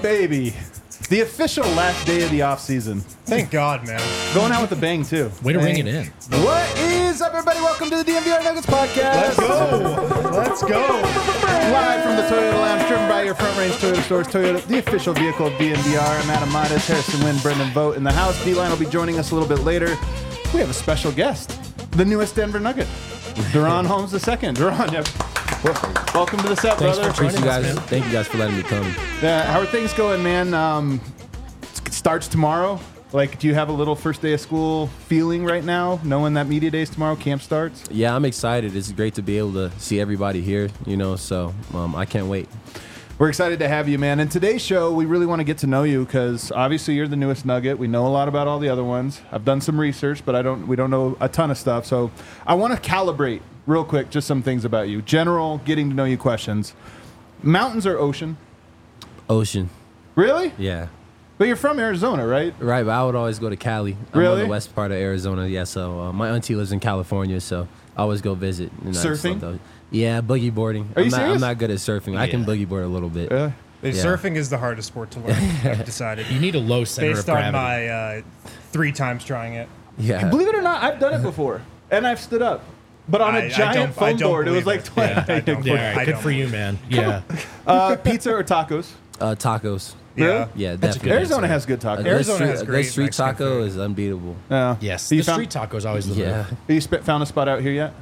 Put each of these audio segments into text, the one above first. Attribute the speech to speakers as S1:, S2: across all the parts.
S1: baby. The official last day of the offseason.
S2: Thank God, man.
S1: Going out with a bang, too.
S3: Way to ring it in.
S1: What is up, everybody? Welcome to the DMVR Nuggets podcast.
S2: Let's go. Let's go.
S1: Live from the Toyota Lounge, driven by your Front Range Toyota stores. Toyota, the official vehicle of DNVR. I'm Adam Midas, Harrison Wynn, Brendan Vogt in the house. D-Line will be joining us a little bit later. We have a special guest, the newest Denver Nugget, Deron Holmes II. Deron, welcome to the set, brother.
S4: Thank you guys for letting me come.
S1: How are things going, man? It starts tomorrow. Like, do you have a little first day of school feeling right now, knowing that media day is tomorrow, camp starts?
S4: Yeah, I'm excited. It's great to be able to see everybody here, so I can't wait.
S1: We're excited to have you, man. In today's show, we really want to get to know you because obviously you're the newest Nugget. We know a lot about all the other ones. I've done some research, but we don't know a ton of stuff. So I want to calibrate real quick just some things about you. General, getting to know you questions. Mountains or ocean?
S4: Ocean.
S1: Really?
S4: Yeah.
S1: But you're from Arizona, right?
S4: Right, but I would always go to Cali. I'm
S1: Really?
S4: on the west part of Arizona, yeah. So my auntie lives in California, so I always go visit. And I just
S1: Surfing?
S4: love those. Yeah, boogie boarding.
S1: Are you serious?
S4: I'm not good at surfing. I can boogie board a little bit.
S1: Yeah.
S4: Yeah.
S2: Surfing is the hardest sport to learn, I've decided.
S3: You need a low center
S2: Based
S3: of
S2: on
S3: gravity.
S2: my 3 times trying it.
S4: Yeah.
S1: Believe it or not, I've done it before, and I've stood up. But on a
S2: I
S1: giant
S2: don't
S1: foam board, it was
S2: believe
S1: like
S2: it.
S1: 20.
S2: Yeah, I don't.
S3: Yeah, all right,
S2: I
S3: good
S2: don't
S3: for you, man. Yeah.
S1: Pizza or tacos?
S4: Tacos.
S2: Yeah.
S4: Yeah,
S3: That's a
S4: definitely.
S3: good
S1: Arizona
S3: answer.
S1: has good tacos.
S4: Good
S2: Arizona
S4: street-
S2: has
S4: a
S2: great
S4: good street
S2: Mexican
S4: taco
S2: food.
S4: is unbeatable.
S3: Yes.
S1: You
S3: The
S1: found-
S3: street taco is always the
S4: Yeah.
S3: move.
S1: Have you found a spot out here yet?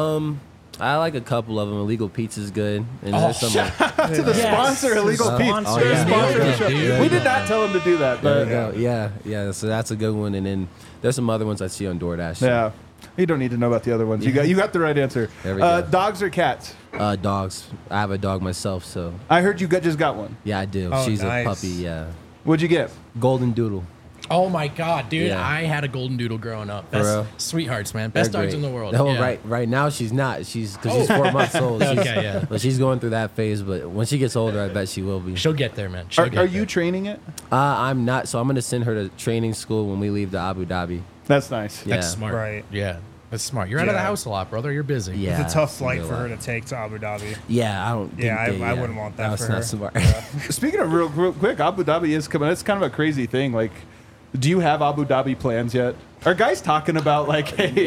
S4: I like a couple of them. Illegal Pizza's good. And there's some
S1: To the sponsor, Illegal
S2: Sponsor.
S1: Pizza.
S4: yeah.
S1: Sponsor of the show.
S3: Dude.
S1: We did not tell him to do that,
S4: There
S1: but
S4: you go. Yeah. So that's a good one. And then there's some other ones I see on DoorDash.
S1: yeah. You don't need to know about the other ones. You got the right answer.
S4: There we go.
S1: Dogs or cats?
S4: Dogs. I have a dog myself, so
S1: I heard you just got one.
S4: yeah, I do.
S2: Oh,
S4: She's
S2: nice.
S4: a puppy. Yeah.
S1: What'd you get?
S4: Golden Doodle.
S3: Oh, my God, dude.
S4: Yeah.
S3: I had a golden doodle growing up.
S4: For
S3: That's
S4: real?
S3: sweethearts, man.
S4: They're
S3: Best dogs
S4: great.
S3: in the world.
S4: No,
S3: Yeah.
S4: right now she's not. Because she's 4 months old. She's,
S3: Okay, yeah.
S4: But she's going through that phase. But when she gets older, I bet she will be.
S3: She'll get there, man. She'll
S1: Are
S3: get
S1: you
S3: there.
S1: training it?
S4: I'm not. So I'm going to send her to training school when we leave to Abu Dhabi.
S1: That's nice.
S4: Yeah.
S3: That's smart.
S2: Right.
S3: Yeah. That's smart. You're out of the
S2: Yeah.
S3: house a lot, brother. You're busy.
S4: Yeah.
S2: It's a tough flight
S4: It's
S2: for
S4: gonna
S2: her
S4: be a
S2: to take to Abu Dhabi.
S4: lot. Yeah, I don't.
S2: Yeah,
S4: think
S2: I wouldn't want that
S4: That's
S2: for
S4: not
S2: her.
S4: smart.
S1: Speaking of real quick, Abu Dhabi is coming. It's kind of a crazy thing. Like, do you have Abu Dhabi plans yet? Are guys talking about like, hey,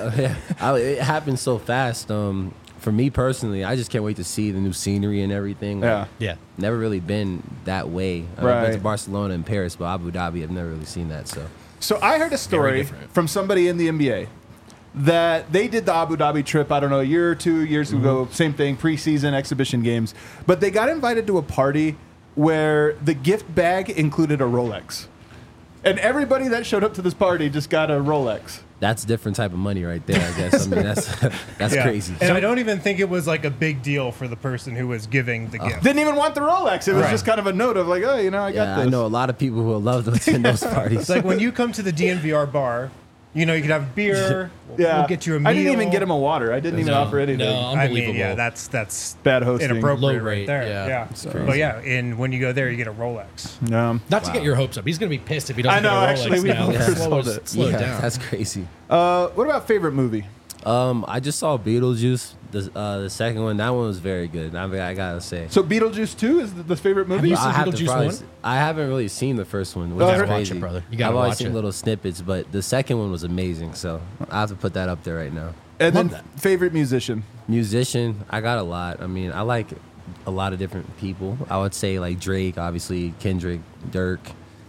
S4: It happened so fast. For me personally, I just can't wait to see the new scenery and everything.
S1: yeah.
S3: Yeah.
S4: Never really been that way. I've
S1: Right.
S4: been to Barcelona and Paris, but Abu Dhabi, I've never really seen that. So
S1: So I heard a story
S3: different.
S1: from somebody in the NBA that they did the Abu Dhabi trip, I don't know, a year or 2 years ago, same thing, preseason exhibition games. But they got invited to a party where the gift bag included a Rolex. And everybody that showed up to this party just got a Rolex.
S4: that's a different type of money right there, I guess. I mean, that's
S2: Yeah.
S4: crazy.
S2: And I don't even think it was like a big deal for the person who was giving the gift.
S1: Didn't even want the Rolex. It was
S2: Right.
S1: just kind of a note of like, oh, I got
S4: Yeah,
S1: this.
S4: I know a lot of people who would love to attend those parties.
S2: It's like when you come to the DNVR bar, you could have beer.
S1: Yeah.
S2: We'll get you a meal.
S1: I didn't even get him a water. I didn't even offer anything.
S3: No,
S2: I mean,
S3: unbelievable.
S2: yeah, that's
S1: Bad hosting.
S2: inappropriate
S3: Low
S2: right
S3: rate,
S2: there.
S3: yeah.
S2: Yeah.
S1: crazy.
S2: But yeah, and when you go there, you get a Rolex.
S1: No.
S3: Not to get your hopes up. He's going to be pissed if he
S1: I
S3: doesn't
S1: know,
S3: get a Rolex
S1: actually, we
S3: now.
S1: both
S3: Slow
S1: sold it.
S3: it
S4: yeah,
S3: down.
S4: that's crazy.
S1: What about favorite movie?
S4: I just saw Beetlejuice, the second one. That one was very good. I gotta say.
S1: So Beetlejuice 2 is the favorite movie?
S3: you seen
S4: I have to
S3: Beetlejuice
S4: probably
S3: 1?
S4: I haven't really seen the first one, which
S1: Oh,
S4: is
S1: I heard-
S4: crazy.
S3: Watch it, brother. You gotta
S4: I've always
S3: watch
S4: seen
S3: it.
S4: little snippets, but the second one was amazing. So I have to put that up there right now.
S1: And
S3: Love
S1: then favorite musician?
S4: Musician, I got a lot. I mean, I like a lot of different people. I would say like Drake, obviously, Kendrick, Dirk.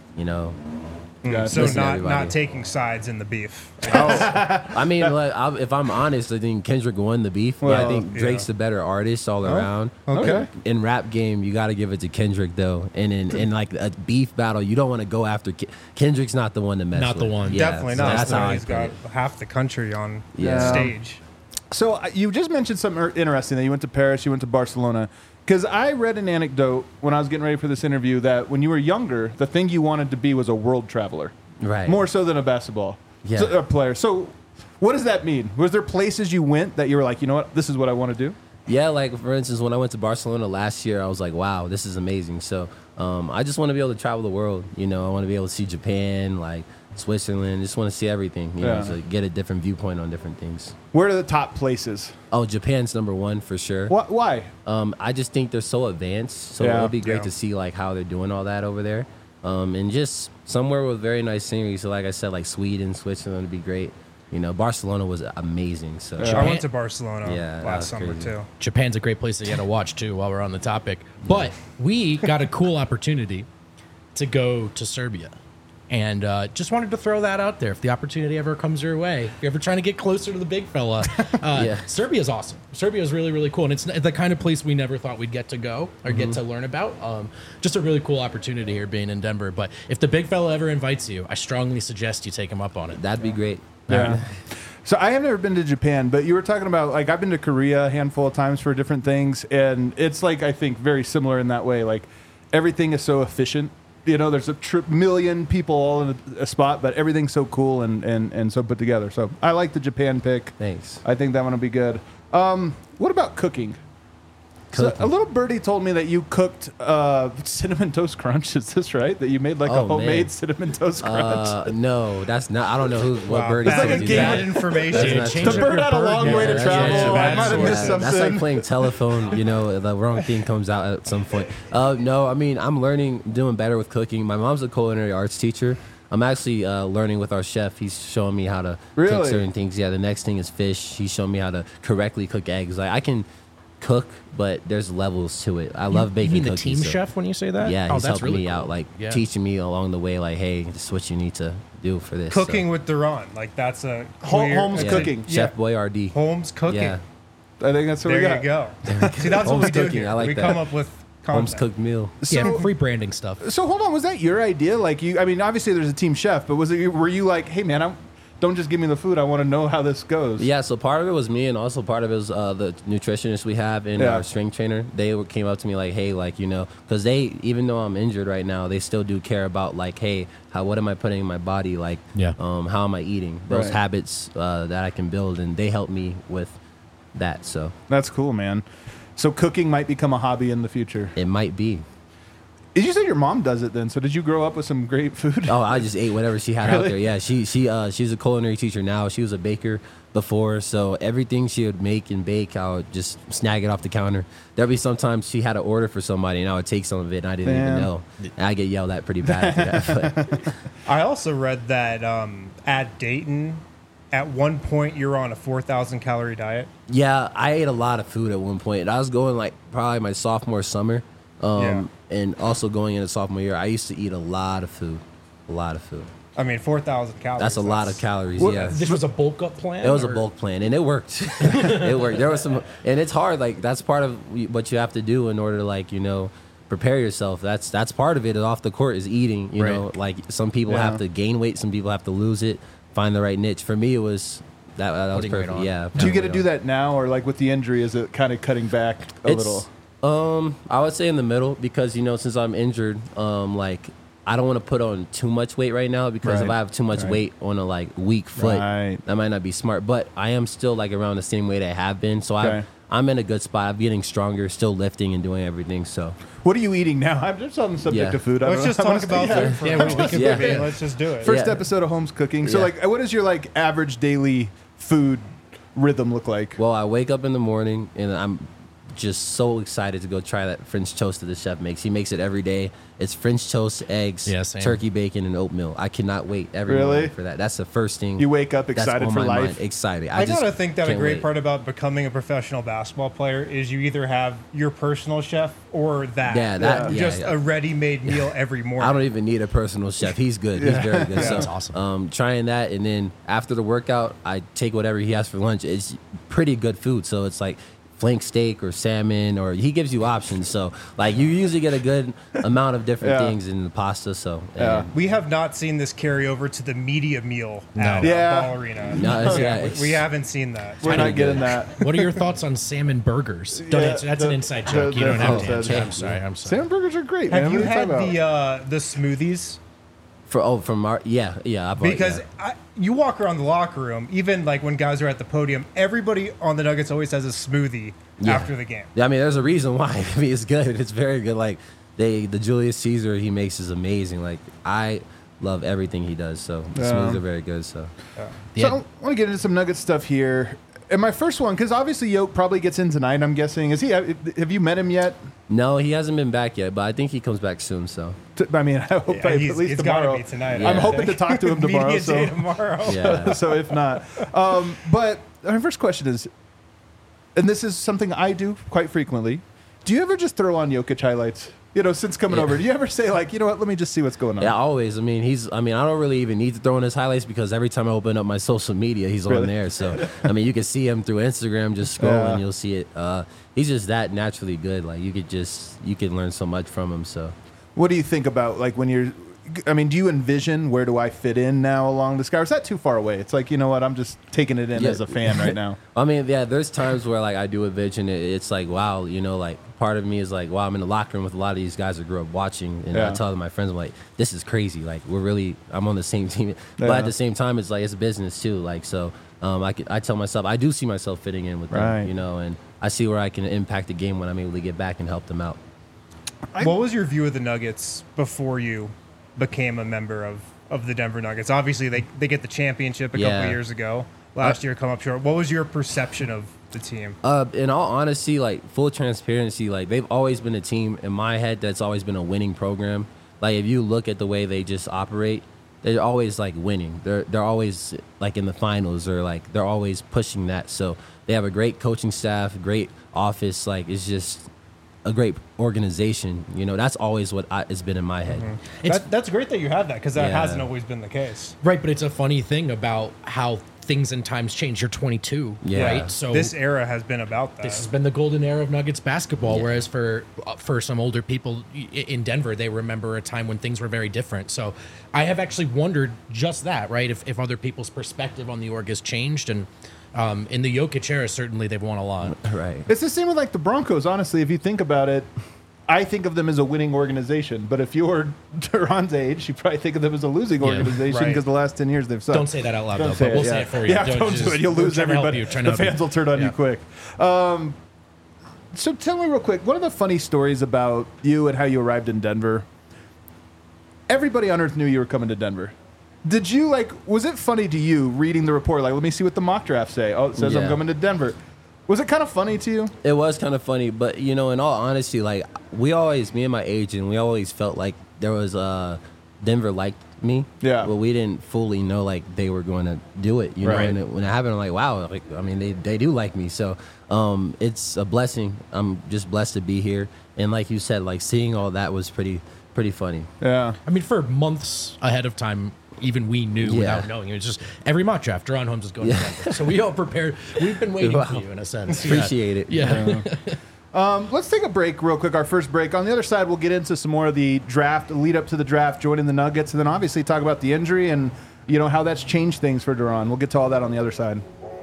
S1: Yeah,
S2: So
S4: listen to
S2: not
S4: everybody.
S2: taking sides in the beef.
S4: I mean, like, if I'm honest, I think Kendrick won the beef, but I
S1: Well,
S4: think Drake's the better artist all around.
S1: Okay.
S4: In rap game, you got to give it to Kendrick though, and in like a beef battle, you don't want to go after Kendrick's not the one to mess
S3: Not
S4: with.
S3: the one.
S4: Yeah,
S2: Definitely
S4: so
S2: not.
S4: That's how I
S2: He's
S4: put
S2: got
S4: it.
S2: half the country on
S4: Yeah.
S2: stage.
S1: So you just mentioned something interesting that you went to Paris, you went to Barcelona. Because I read an anecdote when I was getting ready for this interview that when you were younger, the thing you wanted to be was a world traveler.
S4: Right.
S1: More so than a basketball
S4: Yeah.
S1: player. So what does that mean? Was there places you went that you were like, you know what, this is what I want to do?
S4: Yeah, like for instance, when I went to Barcelona last year, I was like, wow, this is amazing. So I just want to be able to travel the world. You know, I want to be able to see Japan, like Switzerland. Just want to see everything. You know, to get a different viewpoint on different things.
S1: Where are the top places?
S4: Oh, Japan's number one for sure.
S1: Why?
S4: I just think they're so advanced. So
S1: Yeah.
S4: it would be great
S2: Yeah.
S4: to see like how they're doing all that over there. And just somewhere with very nice scenery. So like I said, like Sweden, Switzerland would be great. You know, Barcelona was amazing. So
S2: I went to Barcelona
S4: Yeah, that was
S2: last summer
S4: crazy.
S2: too.
S3: Japan's a great place to get a watch too. While we're on the topic, but we got a cool opportunity to go to Serbia, and just wanted to throw that out there. If the opportunity ever comes your way, if you're ever trying to get closer to the big fella,
S4: Yeah.
S3: Serbia's awesome. Serbia's really, really cool, and it's the kind of place we never thought we'd get to go or get to learn about. Just a really cool opportunity here being in Denver. But if the big fella ever invites you, I strongly suggest you take him up on it.
S4: that'd be great.
S1: Yeah. So I have never been to Japan, but you were talking about like I've been to Korea a handful of times for different things, and it's like I think very similar in that way. Like everything is so efficient. You know, there's a million people all in a spot, but everything's so cool and so put together. So I like the Japan pick.
S4: Thanks.
S1: I think that one will be good. What about cooking? So a little birdie told me that you cooked cinnamon toast crunch. Is this right? That you made like a
S4: Oh,
S1: homemade
S4: man.
S1: cinnamon toast crunch?
S4: No, that's not. I don't know what bird is
S2: Bad,
S1: like a
S4: telling you
S1: game
S2: bad
S4: that.
S2: information.
S4: That's
S3: Change
S4: not
S1: The
S3: up
S4: true.
S1: bird
S3: your
S1: had a long way to
S3: Yeah,
S1: travel.
S3: yeah,
S1: I might have
S2: yeah.
S1: missed something.
S4: That's like playing telephone. You know, the wrong thing comes out at some point. No, I mean, I'm learning, doing better with cooking. My mom's a culinary arts teacher. I'm actually learning with our chef. He's showing me how to
S1: Really?
S4: cook certain things. Yeah, the next thing is fish. He's showing me how to correctly cook eggs. Like I can cook, but there's levels to it. I love baking.
S3: You mean the
S4: cookies,
S3: team
S4: so-
S3: chef when you say that?
S4: Yeah,
S3: oh,
S4: he's
S3: that's
S4: helping
S3: really
S4: me
S3: cool.
S4: out, like
S3: Yeah.
S4: teaching me along the way, like, hey, this is what you need to do for this. So,
S2: Cooking with Duran, like that's a
S1: Holmes
S2: that's
S1: cooking.
S2: A,
S4: Chef Boyardee.
S2: Holmes cooking.
S4: Yeah,
S1: I think that's what
S2: There
S1: we got.
S2: you go. See, that's what
S4: Holmes
S2: we do
S4: cooking,
S2: here.
S4: I like
S2: we
S4: that.
S2: come up with
S4: Holmes
S2: content.
S4: cooked meal.
S3: Yeah,
S1: So-
S3: free branding stuff.
S1: So hold on, was that your idea? Like you, I mean, obviously there's a team chef, but were you like, hey man, don't just give me the food. I want to know how this goes.
S4: Yeah, so part of it was me, and also part of it was the nutritionist we have and
S1: Yeah.
S4: our strength trainer. They came up to me like, hey, like, you know, because they, even though I'm injured right now, they still do care about like, hey, what am I putting in my body? Like,
S3: Yeah.
S4: how am I eating? Those
S1: Right.
S4: habits that I can build, and they help me with that. So
S1: That's cool, man. So cooking might become a hobby in the future.
S4: it might be.
S1: Did you say your mom does it then? So did you grow up with some great food?
S4: Oh, I just ate whatever she had out
S1: Really?
S4: there. Yeah, she's a culinary teacher now. She was a baker before, so everything she would make and bake, I would just snag it off the counter. There'd be sometimes she had an order for somebody, and I would take some of it, and I didn't
S1: Damn.
S4: even know. And I get yelled at pretty bad for that. But
S2: I also read that at Dayton, at one point you're on a 4,000 calorie diet.
S4: yeah, I ate a lot of food at one point. I was going like probably my sophomore summer, and also going into sophomore year. I used to eat a lot of food,
S2: I mean, 4,000 calories.
S4: That's a lot of calories.
S1: What-
S4: Yeah.
S3: This was a bulk up plan?
S4: It was a
S3: or-
S4: bulk plan, and it worked. It worked. There was some, and it's hard. Like that's part of what you have to do in order to, like, you know, prepare yourself. That's part of it. Off the court is eating. You know, like some people
S1: Yeah.
S4: have to gain weight, some people have to lose it. Find the right niche. For me, it was that was
S3: Putting weight
S4: perfect.
S3: on.
S4: Yeah.
S1: Do you get to
S4: putting
S1: do
S4: weight
S1: that now, or like with the injury, is it kind of cutting back a
S4: on.
S1: little?
S4: I would say in the middle because, you know, since I'm injured, like I don't want to put on too much weight right now because if
S1: Right.
S4: I have too much
S1: Right.
S4: weight on a like weak foot,
S1: Right.
S4: that might not be smart. But I am still like around the same weight I have been, so
S1: Okay.
S4: I'm in a good spot. I'm getting stronger, still lifting and doing everything. So
S1: What are you eating now? I'm just on the subject
S4: Yeah.
S1: of food.
S2: Let's just talk about
S1: yeah.
S2: food for
S3: Yeah,
S2: a
S3: we
S2: moment.
S3: can-
S4: Yeah.
S2: I mean, let's just do it.
S1: First
S4: Yeah.
S1: episode of Holmes Cooking. So
S4: Yeah.
S1: like, what does your like average daily food rhythm look like?
S4: well, I wake up in the morning and I'm just so excited to go try that French toast that the chef makes. He makes it every day. It's French toast, eggs,
S3: Yeah, same.
S4: turkey bacon, and oatmeal. I cannot wait every
S1: Really?
S4: morning for that. That's the first thing.
S1: You wake up
S4: that's
S1: excited
S4: on
S1: for
S4: my
S1: life.
S4: mind. Excited.
S2: I
S4: just
S2: gotta think that a
S4: can't
S2: great
S4: wait.
S2: part about becoming a professional basketball player is you either have your personal chef or that.
S4: Yeah, that- yeah,
S2: just
S4: yeah.
S2: a ready-made meal every morning.
S4: I don't even need a personal chef. He's good. He's very good. So,
S3: That's awesome.
S4: Trying that, and then after the workout, I take whatever he has for lunch. It's pretty good food. So it's like flank steak or salmon, or he gives you options. So like you usually get a good amount of different
S1: Yeah.
S4: things in the pasta. So
S1: Yeah.
S2: We have not seen this carry over to the media meal
S3: No.
S2: at
S1: Yeah.
S2: Ball Arena.
S4: No, it's- yeah,
S2: we
S4: it's-
S2: haven't seen that.
S1: We're not
S4: pretty
S1: getting
S4: good.
S1: that.
S3: What are your thoughts on salmon burgers? Don't
S1: Yeah,
S3: answer. That's an inside
S1: the-
S3: joke. You
S1: the
S3: don't have to
S1: full
S3: answer.
S1: said.
S3: I'm sorry. I'm sorry.
S1: Salmon burgers are great, man.
S2: Have you
S1: What are
S2: had
S1: talking about?
S2: the smoothies?
S4: from our yeah I've
S2: Because
S4: yeah.
S2: you walk around the locker room, even like when guys are at the podium, everybody on the Nuggets always has a smoothie after the game.
S4: Yeah, I mean, there's a reason why. I mean, it's good. It's very good. Like the Julius Caesar he makes is amazing. Like I love everything he does. So the smoothies are very good. So
S1: So I want to get into some Nugget stuff here. And my first one, because obviously Yoke probably gets in tonight, I'm guessing. Is he? Have you met him yet?
S4: no, he hasn't been back yet, but I think he comes back soon. So
S1: I mean, I hope
S2: Yeah,
S1: at
S2: he's
S1: least
S2: it's
S1: tomorrow.
S2: gotta be tonight.
S4: Yeah.
S1: I'm hoping to talk to him tomorrow.
S2: Media
S1: So,
S2: day tomorrow.
S4: yeah,
S1: so if not, but my first question is, and this is something I do quite frequently. Do you ever just throw on Jokic highlights? You know, since coming
S4: Yeah.
S1: over, do you ever say like, you know what? Let me just see what's going on.
S4: yeah, always. I mean, I don't really even need to throw in his highlights because every time I open up my social media, he's
S1: Really?
S4: on there. So I mean, you can see him through Instagram, just scrolling,
S1: Yeah.
S4: you'll see it. He's just that naturally good. Like you can learn so much from him. So.
S1: What do you think about like when you're? I mean, do you envision where do I fit in now along this guy? Or is that too far away? It's like, you know what? I'm just taking it in
S4: Yeah.
S1: as a fan right now.
S4: I mean, yeah, there's times where like I do envision it. It's like, wow, you know, like part of me is like, wow, I'm in the locker room with a lot of these guys I grew up watching, and
S1: Yeah.
S4: I tell my friends, I'm like, this is crazy. Like I'm on the same team, but
S1: Yeah.
S4: at the same time, it's like it's business too. Like so, I tell myself I do see myself fitting in with
S1: Right.
S4: them, you know, and I see where I can impact the game when I'm able to get back and help them out.
S2: What was your view of the Nuggets before you became a member of the Denver Nuggets? Obviously, they get the championship a couple
S4: Yeah.
S2: of years ago. Last year, come up short. What was your perception of the team?
S4: In all honesty, like full transparency, like they've always been a team in my head that's always been a winning program. Like if you look at the way they just operate, they're always like winning. They're always like in the finals or like they're always pushing that. So they have a great coaching staff, great office. Like it's just a great organization. You know, that's always what has been in my head.
S2: That's great that you had that because that
S4: Yeah.
S2: hasn't always been the case.
S3: Right, but it's a funny thing about how things and times change. You're 22,
S4: Yeah.
S3: right? So
S2: This era has been about that.
S3: this has been the golden era of Nuggets basketball. Whereas for some older people in Denver, they remember a time when things were very different. So I have actually wondered just that, right? If other people's perspective on the org has changed, and in the Jokic era, certainly they've won a lot.
S4: Right.
S1: It's the same with like the Broncos. Honestly, if you think about it, I think of them as a winning organization. But if you're Duran's age, you probably think of them as a losing organization
S2: right.
S1: because the last 10 years they've sucked.
S3: Don't say that out loud,
S1: Don't
S3: though.
S1: say
S3: But we'll
S1: yeah.
S3: say it for you.
S1: Yeah, don't do it. You'll
S3: we're
S1: lose
S3: trying to help
S1: everybody.
S3: you, trying
S1: The
S3: to help
S1: fans
S3: you.
S1: will turn on you
S3: Yeah.
S1: quick. So tell me real quick, what are the funny stories about you and how you arrived in Denver? Everybody on earth knew you were coming to Denver. Did you was it funny to you reading the report? Like, let me see what the mock draft say. Oh, it says I'm
S4: Yeah.
S1: coming to Denver. Was it kind of funny to you?
S4: It was kind of funny, but you know, in all honesty, like me and my agent, we always felt like there was Denver liked me.
S1: Yeah.
S4: But we didn't fully know like they were going to do it. You know,
S1: Right.
S4: and when it happened, I'm like, wow, like I mean, they do like me. So it's a blessing. I'm just blessed to be here. And like you said, like seeing all that was pretty funny.
S1: Yeah.
S3: I mean, for months ahead of time, even we knew
S4: Yeah.
S3: without knowing. It was just every mock draft, Duran Holmes is going to Denver. So we all prepared. We've been waiting for
S4: Wow.
S3: you in a sense.
S4: Appreciate it.
S3: Yeah.
S1: Let's take a break real quick, our first break. On the other side, we'll get into some more of the draft, lead up to the draft, joining the Nuggets, and then obviously talk about the injury and, you know, how that's changed things for Duran. We'll get to all that on the other side.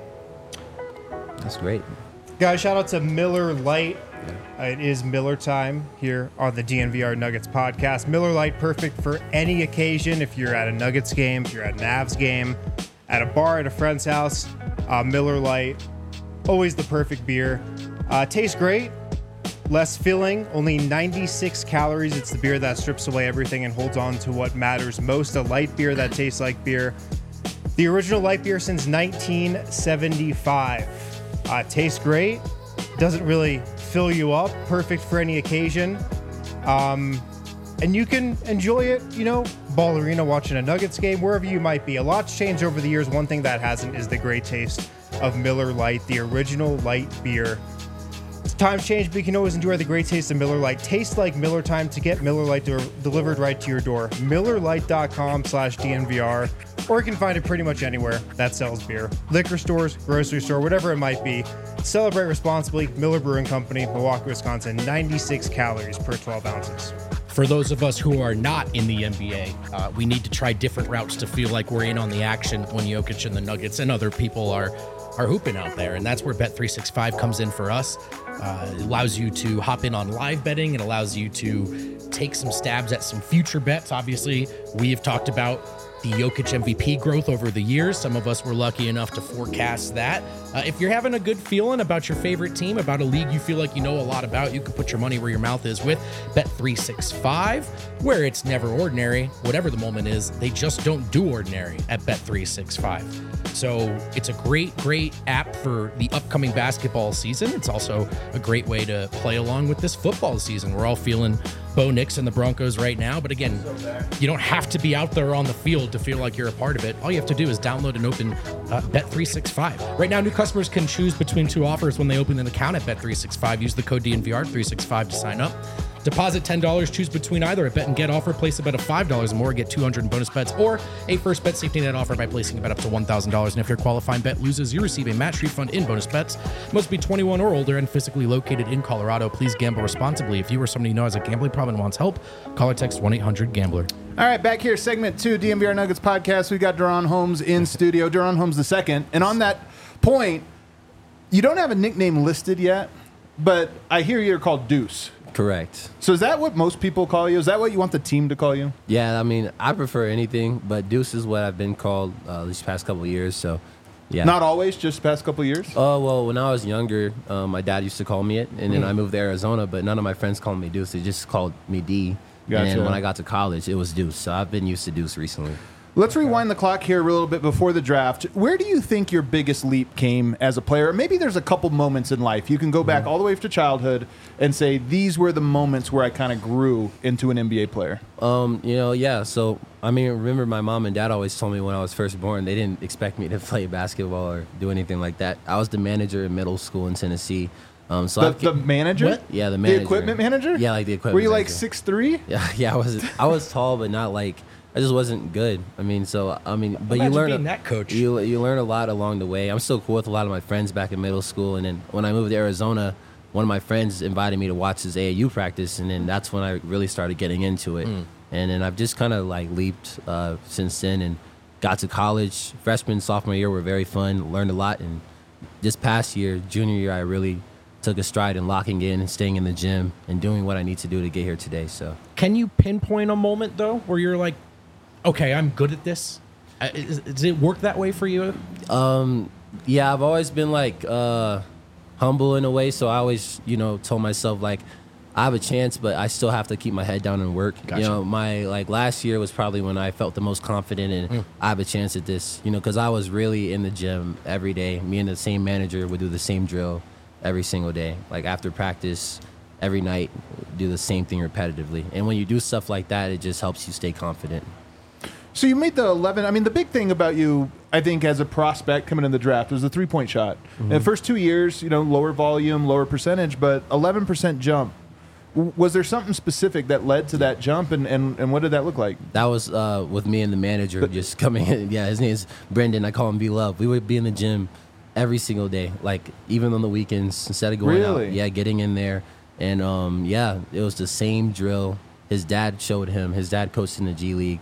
S4: That's great.
S2: Guys, shout out to Miller Lite. It is Miller time here on the DNVR Nuggets podcast. Miller Lite, perfect for any occasion. If you're at a Nuggets game, if you're at an Avs game, at a bar, at a friend's house, Miller Lite, always the perfect beer. Tastes great, less filling, only 96 calories. It's the beer that strips away everything and holds on to what matters most. A light beer that tastes like beer. The original light beer since 1975. Tastes great. Doesn't really fill you up. Perfect for any occasion. And you can enjoy it, you know, Ball Arena, watching a Nuggets game, wherever you might be. A lot's changed over the years. One thing that hasn't is the great taste of Miller Lite, the original light beer. Times change, but you can always enjoy the great taste of Miller Lite. Taste like Miller time to get Miller Lite delivered right to your door. MillerLite.com/DNVR, or you can find it pretty much anywhere that sells beer. Liquor stores, grocery store, whatever it might be. Celebrate responsibly. Miller Brewing Company, Milwaukee, Wisconsin. 96 calories per 12 ounces.
S3: For those of us who are not in the NBA, we need to try different routes to feel like we're in on the action when Jokic and the Nuggets and other people are hooping out there. And that's where Bet365 comes in for us. It allows you to hop in on live betting. It allows you to take some stabs at some future bets. Obviously, we have talked about the Jokic MVP growth over the years. Some of us were lucky enough to forecast that. If you're having a good feeling about your favorite team, about a league you feel like you know a lot about, you can put your money where your mouth is with Bet365, where it's never ordinary. Whatever the moment is, they just don't do ordinary at Bet365. So it's a great app for the upcoming basketball season. It's also a great way to play along with this football season. We're all feeling Bo Nix and the Broncos right now. But again, you don't have to be out there on the field to feel like you're a part of it. All you have to do is download and open Bet365. Right now, new customers can choose between two offers when they open an account at Bet365. Use the code DNVR365 to sign up. Deposit $10, choose between either a bet and get offer, place a bet of $5 or more, get 200 in bonus bets, or a first bet safety net offer by placing a bet up to $1,000. And if your qualifying bet loses, you receive a match refund in bonus bets. Must be 21 or older and physically located in Colorado. Please gamble responsibly. If you or somebody you know has a gambling problem and wants help, call or text 1-800-GAMBLER.
S1: All right, back here, segment 2, DNVR Nuggets podcast. We got Deron Holmes in studio. Deron Holmes II. And on that point, you don't have a nickname listed yet, but I hear you're called Deuce.
S4: Correct.
S1: So is that what most people call you? Is that what you want the team to call you?
S4: Yeah, I mean, I prefer anything, but Deuce is what I've been called these past couple of years. So, yeah.
S1: Not always, just past couple of years?
S4: Oh, well, when I was younger, my dad used to call me it, and then I moved to Arizona, but none of my friends called me Deuce. They just called me D.
S1: Gotcha.
S4: And then when I got to college, it was Deuce. So I've been used to Deuce recently.
S1: Let's rewind the clock here a little bit before the draft. Where do you think your biggest leap came as a player? Maybe there's a couple moments in life. You can go back all the way to childhood and say, these were the moments where I kind of grew into an NBA player.
S4: Yeah. So, I mean, remember my mom and dad always told me when I was first born, they didn't expect me to play basketball or do anything like that. I was the manager in middle school in Tennessee.
S1: The manager?
S3: What?
S4: Yeah, the manager.
S1: The equipment manager?
S4: Yeah, like the equipment
S1: Were you
S4: manager.
S1: like 6'3"?
S4: Yeah, I was tall, but not like, I just wasn't good. But
S3: Imagine
S4: you learn
S3: being that coach.
S4: You learn a lot along the way. I'm still cool with a lot of my friends back in middle school, and then when I moved to Arizona, one of my friends invited me to watch his AAU practice, and then that's when I really started getting into it. And then I've just kind of like leaped since then, and got to college. Freshman, sophomore year were very fun. Learned a lot, and this past year, junior year, I really took a stride in locking in and staying in the gym and doing what I need to do to get here today. So,
S3: Can you pinpoint a moment, though, where you're like, okay, I'm good at this? Does it work that way for you?
S4: yeah, I've always been like humble in a way. So I always, told myself like I have a chance, but I still have to keep my head down and work.
S3: Gotcha.
S4: My last year was probably when I felt the most confident and I have a chance at this, because I was really in the gym every day. Me and the same manager would do the same drill every single day. Like after practice, every night, do the same thing repetitively. And when you do stuff like that, it just helps you stay confident.
S1: So you made the 11. I mean, the big thing about you, I think, as a prospect coming in the draft was the three-point shot. In the first 2 years, lower volume, lower percentage, but 11% jump. Was there something specific that led to that jump, and what did that look like?
S4: That was with me and the manager just coming in. Yeah, his name is Brendan. I call him B-Love. We would be in the gym every single day, like even on the weekends, instead of going out. Yeah, getting in there. And, it was the same drill. His dad showed him. His dad coached in the G League.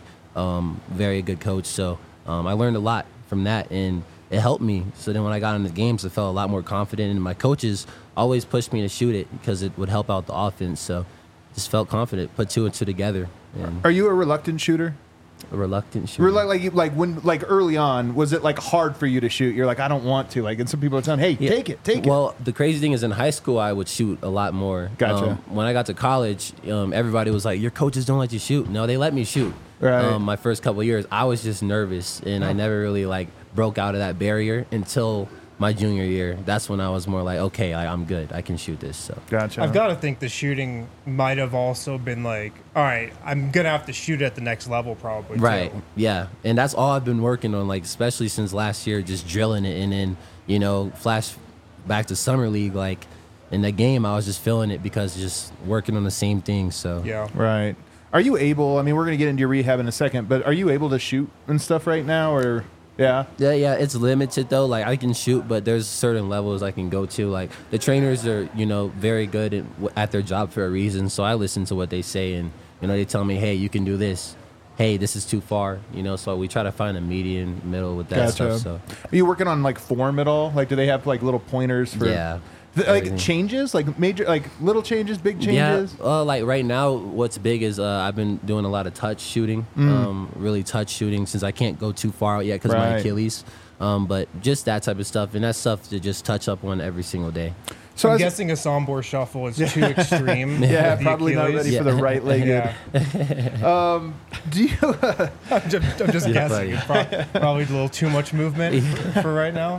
S4: Very good coach. So I learned a lot from that, and it helped me. So then when I got in the games, I felt a lot more confident, and my coaches always pushed me to shoot it because it would help out the offense. So just felt confident, put two and two together. And
S1: Are you a reluctant shooter?
S4: a reluctant shooter.
S1: Like early on, was it like hard for you to shoot? You're like, I don't want to. Like, and some people are telling, hey, take it.
S4: Well, the crazy thing is in high school, I would shoot a lot more.
S1: Gotcha.
S4: When I got to college, everybody was like, your coaches don't let you shoot. No, they let me shoot.
S1: Right.
S4: My first couple of years, I was just nervous, and I never really broke out of that barrier until my junior year. That's when I was more like, okay, I'm good. I can shoot this. So
S1: Gotcha.
S2: I've got to think the shooting might have also been like, all right, I'm going to have to shoot at the next level probably.
S4: Right.
S2: Too.
S4: Yeah. And that's all I've been working on, especially since last year, just drilling it. And then, flash back to Summer League, in the game, I was just feeling it because just working on the same thing. So
S2: Yeah.
S1: Right. Are you able, we're going to get into your rehab in a second, but are you able to shoot and stuff right now, or... Yeah.
S4: Yeah, it's limited though. I can shoot, but there's certain levels I can go to. The trainers are, very good at their job for a reason. So I listen to what they say, and they tell me, hey, you can do this. Hey, this is too far. So we try to find a median middle with that stuff. So
S1: are you working on form at all? Do they have little pointers for?
S4: Yeah.
S1: Changes, major, little changes, big changes?
S4: Yeah, right now, what's big is I've been doing a lot of touch shooting, really touch shooting, since I can't go too far out yet because of my Achilles. But just that type of stuff, and that's stuff to just touch up on every single day.
S1: So
S2: I'm
S1: as-
S2: guessing a Sombor shuffle is too extreme.
S1: yeah,
S2: with the
S1: probably not
S2: Achilles.
S1: ready for the right leg.
S2: Yeah.
S1: Do you?
S2: I'm just
S4: Yeah,
S2: guessing.
S4: buddy.
S2: It's probably a little too much movement for right now.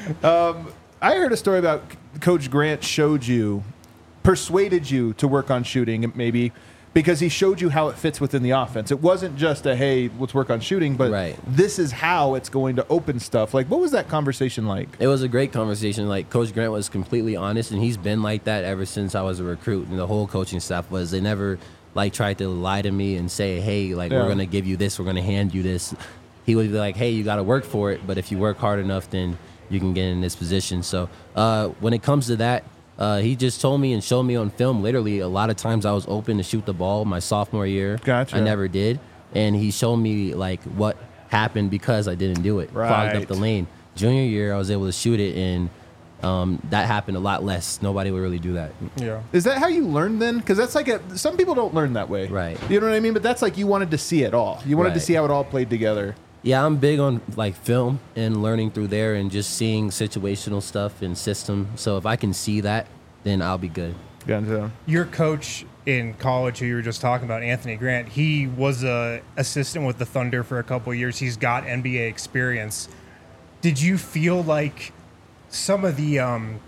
S1: I heard a story about Coach Grant persuaded you to work on shooting, maybe because he showed you how it fits within the offense. It wasn't just a, hey, let's work on shooting, but
S4: Right.
S1: this is how it's going to open stuff. Like, what was that conversation like?
S4: It was a great conversation. Like, Coach Grant was completely honest, and he's been like that ever since I was a recruit. And the whole coaching staff was. They never like tried to lie to me and say, hey, like,
S1: Yeah.
S4: we're going to give you this, we're going to hand you this. He would be like, hey, you got to work for it, but if you work hard enough, then you can get in this position. So when it comes to that, he just told me and showed me on film, literally, a lot of times I was open to shoot the ball my sophomore year.
S1: Gotcha.
S4: I never did. And he showed me, like, what happened because I didn't do it. Clogged
S1: Right.
S4: up the lane. Junior year, I was able to shoot it, and that happened a lot less. Nobody would really do that.
S2: Yeah.
S1: Is that how you learn then? Because that's like some people don't learn that way.
S4: Right.
S1: You know what I mean? But that's like you wanted to see it all. You wanted to
S4: Right.
S1: see how it all played together.
S4: Yeah, I'm big on, like, film and learning through there and just seeing situational stuff and system. So if I can see that, then I'll be good.
S1: Gotcha.
S2: Your coach in college, who you were just talking about, Anthony Grant, he was a assistant with the Thunder for a couple of years. He's got NBA experience. Did you feel like some of the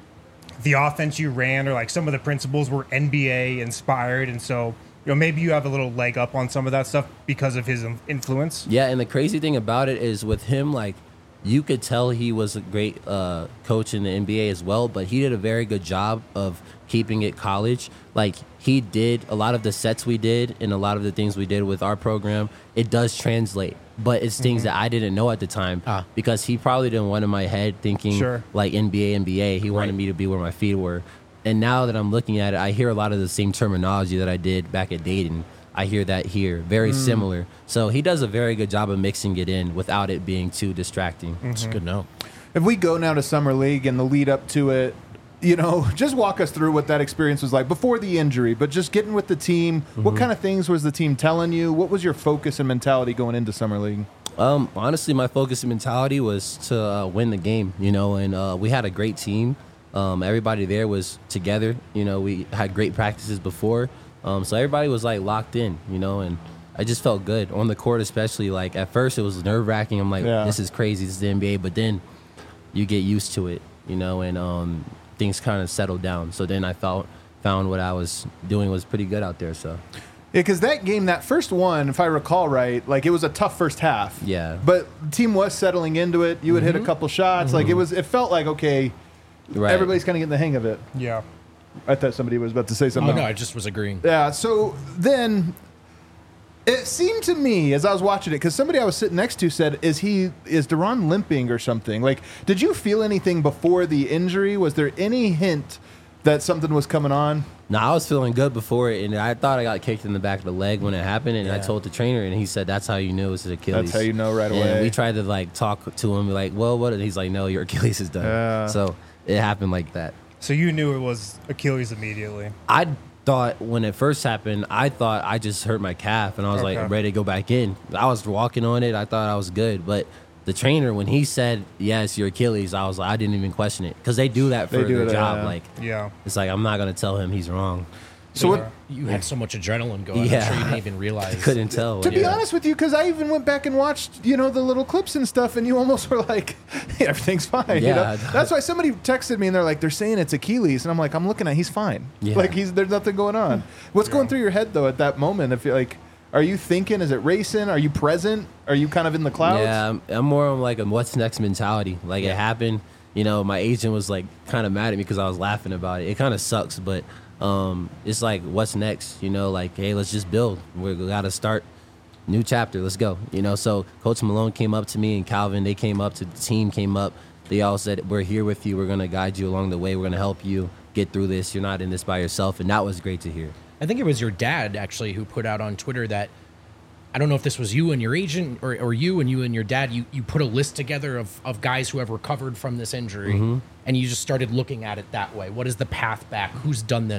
S2: offense you ran, or like some of the principles, were NBA inspired, and so maybe you have a little leg up on some of that stuff because of his influence?
S4: Yeah, and the crazy thing about it is with him, like, you could tell he was a great coach in the NBA as well, but he did a very good job of keeping it college. Like, he did a lot of the sets we did and a lot of the things we did with our program, it does translate. But it's things that I didn't know at the time because he probably didn't want in my head thinking
S2: Sure.
S4: like NBA. He wanted me to be where my feet were. And now that I'm looking at it, I hear a lot of the same terminology that I did back at Dayton. I hear that here, very similar. So he does a very good job of mixing it in without it being too distracting.
S3: It's good to know.
S1: If we go now to Summer League and the lead up to it, just walk us through what that experience was like before the injury, but just getting with the team. What kind of things was the team telling you? What was your focus and mentality going into Summer League?
S4: Honestly, my focus and mentality was to win the game, and we had a great team. Everybody there was together. We had great practices before. So everybody was like locked in, and I just felt good on the court, especially. Like, at first it was nerve wracking. I'm like,
S1: Yeah.
S4: this is crazy. This is the NBA. But then you get used to it, and things kind of settled down. So then I found what I was doing was pretty good out there. So
S1: Yeah, because that game, that first one, if I recall right, like it was a tough first half.
S4: Yeah.
S1: But the team was settling into it. You would hit a couple shots. Like it felt like, okay,
S4: right.
S1: everybody's kind of getting the hang of it.
S2: Yeah.
S1: I thought somebody was about to say
S3: Oh,
S1: something.
S3: no, I just was agreeing.
S1: Yeah, so then it seemed to me as I was watching it, because somebody I was sitting next to said, is Deron limping or something? Like, did you feel anything before the injury? Was there any hint that something was coming on?
S4: No, I was feeling good before it, and I thought I got kicked in the back of the leg when it happened, and I told the trainer, and he said, that's how you knew it was his Achilles.
S1: That's how you know right away.
S4: And we tried to, like, talk to him, like, well, what? And he's like, no, your Achilles is done.
S1: Yeah.
S4: So it happened like that.
S2: So you knew it was Achilles immediately.
S4: I thought when it first happened, I thought I just hurt my calf, and I was
S2: Okay.
S4: like ready to go back in. I was walking on it. I thought I was good, but the trainer, when he said, yes, your Achilles, I was like, I didn't even question it, because they do that for
S1: They do
S4: their
S1: that,
S4: job.
S1: yeah.
S4: Like,
S2: Yeah.
S4: it's like, I'm not going to tell him he's wrong.
S1: So what?
S3: You had so much adrenaline going.
S4: Yeah.
S3: I'm sure you didn't even realize.
S4: Couldn't tell.
S1: To be
S4: Yeah.
S1: honest with you, because I even went back and watched, the little clips and stuff, and you almost were like, hey, everything's fine.
S4: Yeah.
S1: That's why somebody texted me, and they're saying it's Achilles, and I'm like, I'm looking at, he's fine.
S4: Yeah.
S1: Like there's nothing going on. What's going through your head though at that moment? If you're like, are you thinking? Is it racing? Are you present? Are you kind of in the clouds?
S4: Yeah, I'm more on like a what's next mentality. Like, it happened, my agent was like kind of mad at me because I was laughing about it. It kind of sucks, but it's like, what's next? Like, hey, let's just build. We got to start new chapter. Let's go. So Coach Malone came up to me, and Calvin, they came up to the team, came up. They all said, we're here with you. We're going to guide you along the way. We're going to help you get through this. You're not in this by yourself. And that was great to hear.
S3: I think it was your dad actually who put out on Twitter that, I don't know if this was you and your agent or you and your dad, you put a list together of guys who have recovered from this injury, and you just started looking at it that way. What is the path back? Who's done this?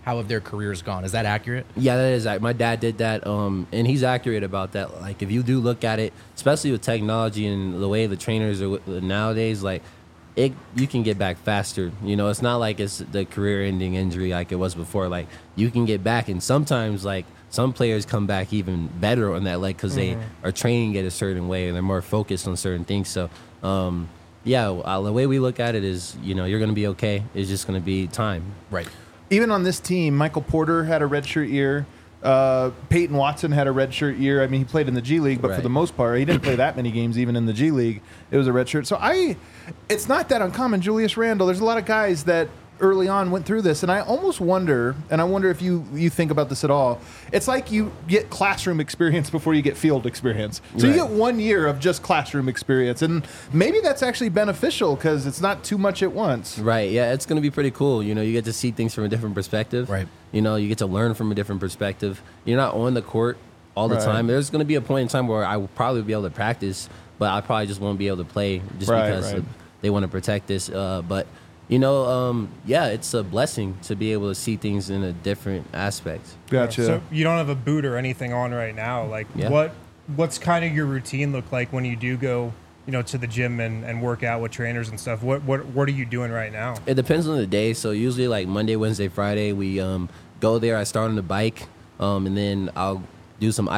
S3: how have their careers gone? Is that accurate?
S4: Yeah, that is. My dad did that, and he's accurate about that. Like, if you do look at it, especially with technology and the way the trainers are nowadays, like, you can get back faster. You know, it's not like it's the career-ending injury like it was before. Like, you can get back, and sometimes, like, some players come back even better on that leg because they are training it a certain way and they're more focused on certain things. So, the way we look at it is, you know, you're going to be okay. It's just going to be time.
S3: Right.
S1: Even on this team, Michael Porter had a redshirt year. Peyton Watson had a redshirt year. I mean, he played in the G League, but for the most part, he didn't play that many games even in the G League. It was a redshirt. So it's not that uncommon. Julius Randle, there's a lot of guys that early on went through this, and I almost wonder, and I wonder if you think about this at all. It's like you get classroom experience before you get field experience. So you get 1 year of just classroom experience, and maybe that's actually beneficial because it's not too much at once.
S4: Right. Yeah, it's going to be pretty cool. You know, you get to see things from a different perspective.
S3: Right.
S4: You know, you get to learn from a different perspective. You're not on the court all the time. There's going to be a point in time where I will probably be able to practice, but I probably just won't be able to play just because they want to protect this. But you know, it's a blessing to be able to see things in a different aspect.
S1: Gotcha.
S2: So you don't have a boot or anything on right now. Like, what's kind of your routine look like when you do go, you know, to the gym and work out with trainers and stuff? What are you doing right now?
S4: It depends on the day. So usually, like Monday, Wednesday, Friday, we go there. I start on the bike, and then I'll do some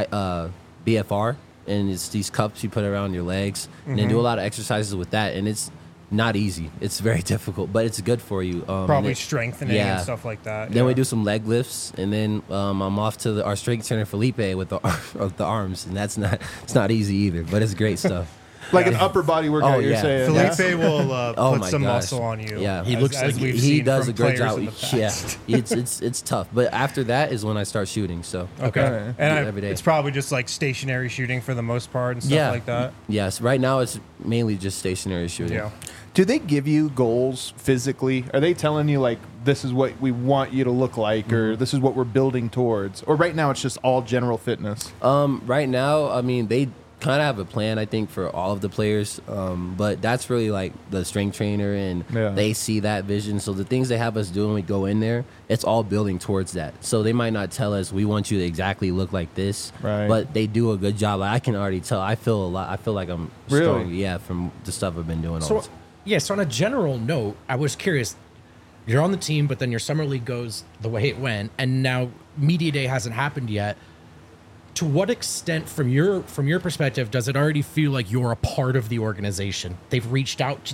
S4: BFR, and it's these cups you put around your legs, and then do a lot of exercises with that, and it's not easy. It's very difficult, but it's good for you.
S2: Probably strengthening and stuff like that.
S4: Then we do some leg lifts, and then I'm off to our strength trainer Felipe with the arms, and it's not easy either, but it's great stuff.
S1: Like an upper body workout, you're saying.
S2: Felipe will put some muscle on you.
S4: Yeah,
S3: he looks like
S4: he does a great job.
S2: Yeah,
S4: it's tough, but after that is when I start shooting. So
S2: okay, and
S4: every day.
S2: It's probably just like stationary shooting for the most part and stuff like that.
S4: Yes, right now it's mainly just stationary shooting.
S2: Yeah.
S1: Do they give you goals physically? Are they telling you, like, this is what we want you to look like, or this is what we're building towards? Or right now it's just all general fitness?
S4: Right now, I mean, they kind of have a plan, I think, for all of the players. But that's really like the strength trainer, and they see that vision. So the things they have us do when we go in there, it's all building towards that. So they might not tell us, we want you to exactly look like this, but they do a good job. Like, I can already tell. I feel a lot. I feel like I'm strong, from the stuff I've been doing all the time.
S3: Yeah, so on a general note, I was curious. You're on the team, but then your summer league goes the way it went, and now media day hasn't happened yet. To what extent, from your perspective, does it already feel like you're a part of the organization? They've reached out.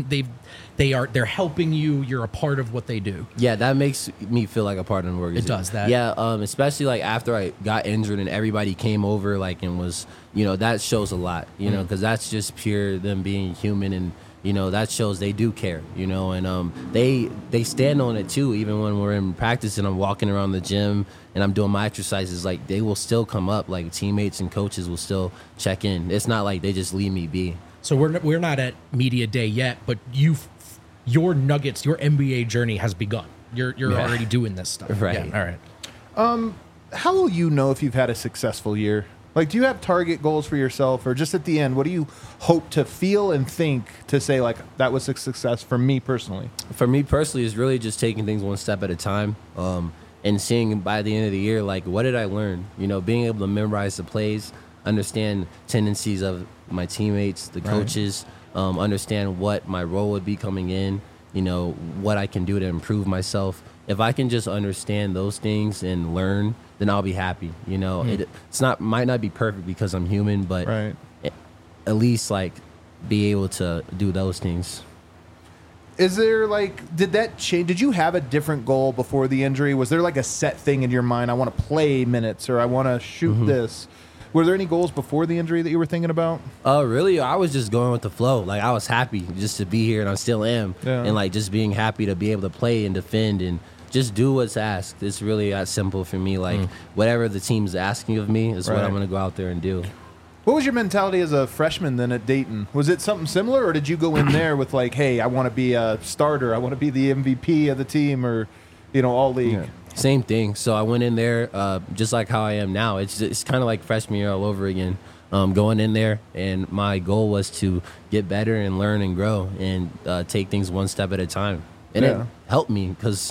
S3: They're helping you. You're a part of what they do.
S4: Yeah, that makes me feel like a part of the organization.
S3: It does that.
S4: Yeah, especially like after I got injured and everybody came over, like, and was, you know, that shows a lot. You know, because that's just pure them being human, and you know, that shows they do care, you know, and they stand on it too. Even when we're in practice and I'm walking around the gym and I'm doing my exercises, like, they will still come up, like teammates and coaches will still check in. It's not like they just leave me be.
S3: So we're not at media day yet, but your Nuggets, your NBA journey has begun. You're already doing this stuff.
S4: Right.
S3: Yeah, all right.
S1: How will you know if you've had a successful year? Like, do you have target goals for yourself, or just at the end, what do you hope to feel and think to say, like, that was a success for me personally?
S4: For me personally, it's really just taking things one step at a time, and seeing by the end of the year, like, what did I learn? You know, being able to memorize the plays, understand tendencies of my teammates, the coaches, understand what my role would be coming in, you know, what I can do to improve myself. If I can just understand those things and learn, then I'll be happy. You know, might not be perfect because I'm human, but at least, like, be able to do those things.
S1: Is there, like, did that change? Did you have a different goal before the injury? Was there like a set thing in your mind? I want to play minutes, or I want to shoot this. Were there any goals before the injury that you were thinking about?
S4: Really, I was just going with the flow. Like, I was happy just to be here, and I still am. Yeah. And, like, just being happy to be able to play and defend and just do what's asked. It's really that simple for me. Like, whatever the team's asking of me is what I'm going to go out there and do.
S1: What was your mentality as a freshman then at Dayton? Was it something similar, or did you go in there with, like, hey, I want to be a starter, I want to be the MVP of the team, or, you know, all league?
S4: Yeah. Same thing. So I went in there just like how I am now. It's kind of like freshman year all over again. Going in there, and my goal was to get better and learn and grow and take things one step at a time. And it helped me because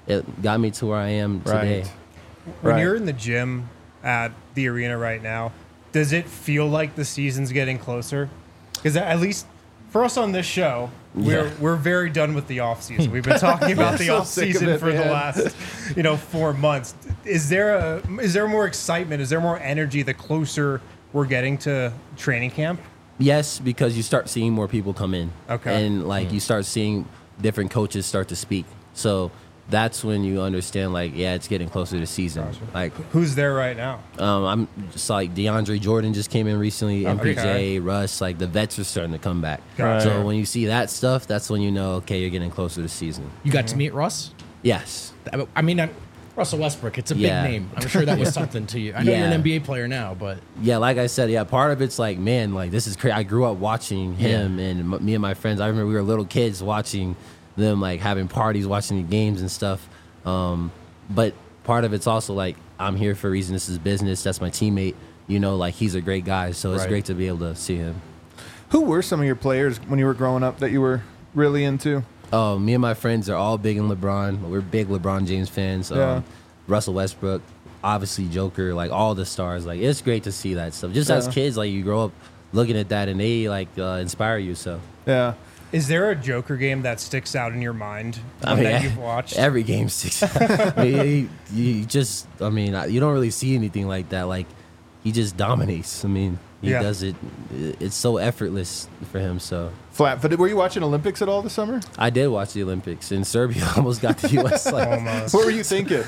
S4: it got me to where I am today.
S1: Right.
S2: When
S1: Right.
S2: you're in the gym at the arena right now, does it feel like the season's getting closer? Because at least for us on this show, we're very done with the off season. We've been talking about the
S1: So
S2: off
S1: sick of
S2: season
S1: it,
S2: for the
S1: man.
S2: last 4 months. Is there more excitement? Is there more energy the closer we're getting to training camp?
S4: Yes, because you start seeing more people come in.
S2: Okay.
S4: And like you start seeing different coaches start to speak. So that's when you understand, like, yeah, it's getting closer to season. Like,
S2: Who's there right now?
S4: I'm just like DeAndre Jordan just came in recently,
S2: Okay.
S4: MPJ, Russ, like the vets are starting to come back.
S2: Gotcha.
S4: So when you see that stuff, that's when you know, okay, you're getting closer to season.
S3: You got to meet Russ?
S4: Yes.
S3: I mean, Russell Westbrook, it's a big
S4: Yeah.
S3: name. I'm sure that was something to you. I know you're
S4: Yeah.
S3: an NBA player now, but
S4: Yeah, like I said, yeah, part of it's like, man, like this is crazy. I grew up watching him and me and my friends. I remember we were little kids watching them, like having parties, watching the games and stuff. But part of it's also like, I'm here for a reason. This is business. That's my teammate. You know, like he's a great guy. So it's
S1: Right.
S4: great to be able to see him.
S1: Who were some of your players when you were growing up that you were really into?
S4: Oh, me and my friends are all big in LeBron. We're big LeBron James fans.
S1: Yeah.
S4: Russell Westbrook, obviously Joker, like all the stars. Like it's great to see that stuff. Just as
S1: Yeah.
S4: kids, like you grow up looking at that and they like inspire you. So
S1: Yeah.
S2: Is there a Joker game that sticks out in your mind
S4: I mean,
S2: that you've watched?
S4: every game sticks. I mean, you just, I mean, you don't really see anything like that. Like he just dominates. I mean, he
S2: Yeah.
S4: does it. It's so effortless for him. So
S1: Flat-footed. Were you watching Olympics at all this summer?
S4: I did watch the Olympics in Serbia. Almost got the U.S. Like
S2: Almost.
S1: What were you thinking?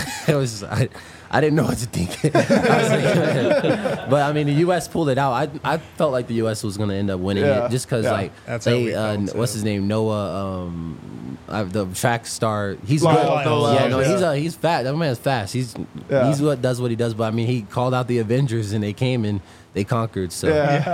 S4: I didn't know what to think. But I mean, the U.S. pulled it out. I felt like the U.S. was going to end up winning
S1: Yeah,
S4: it just because
S1: yeah.
S4: like
S2: That's how we
S4: they
S2: felt, too.
S4: what's his name, Noah, the track star. He's
S1: Lyle,
S4: good.
S1: Noah
S4: Yeah,
S1: Lyles,
S4: no,
S1: yeah.
S4: he's fat. That man's fast. He's what does what he does. But I mean, he called out the Avengers and they came and they conquered. So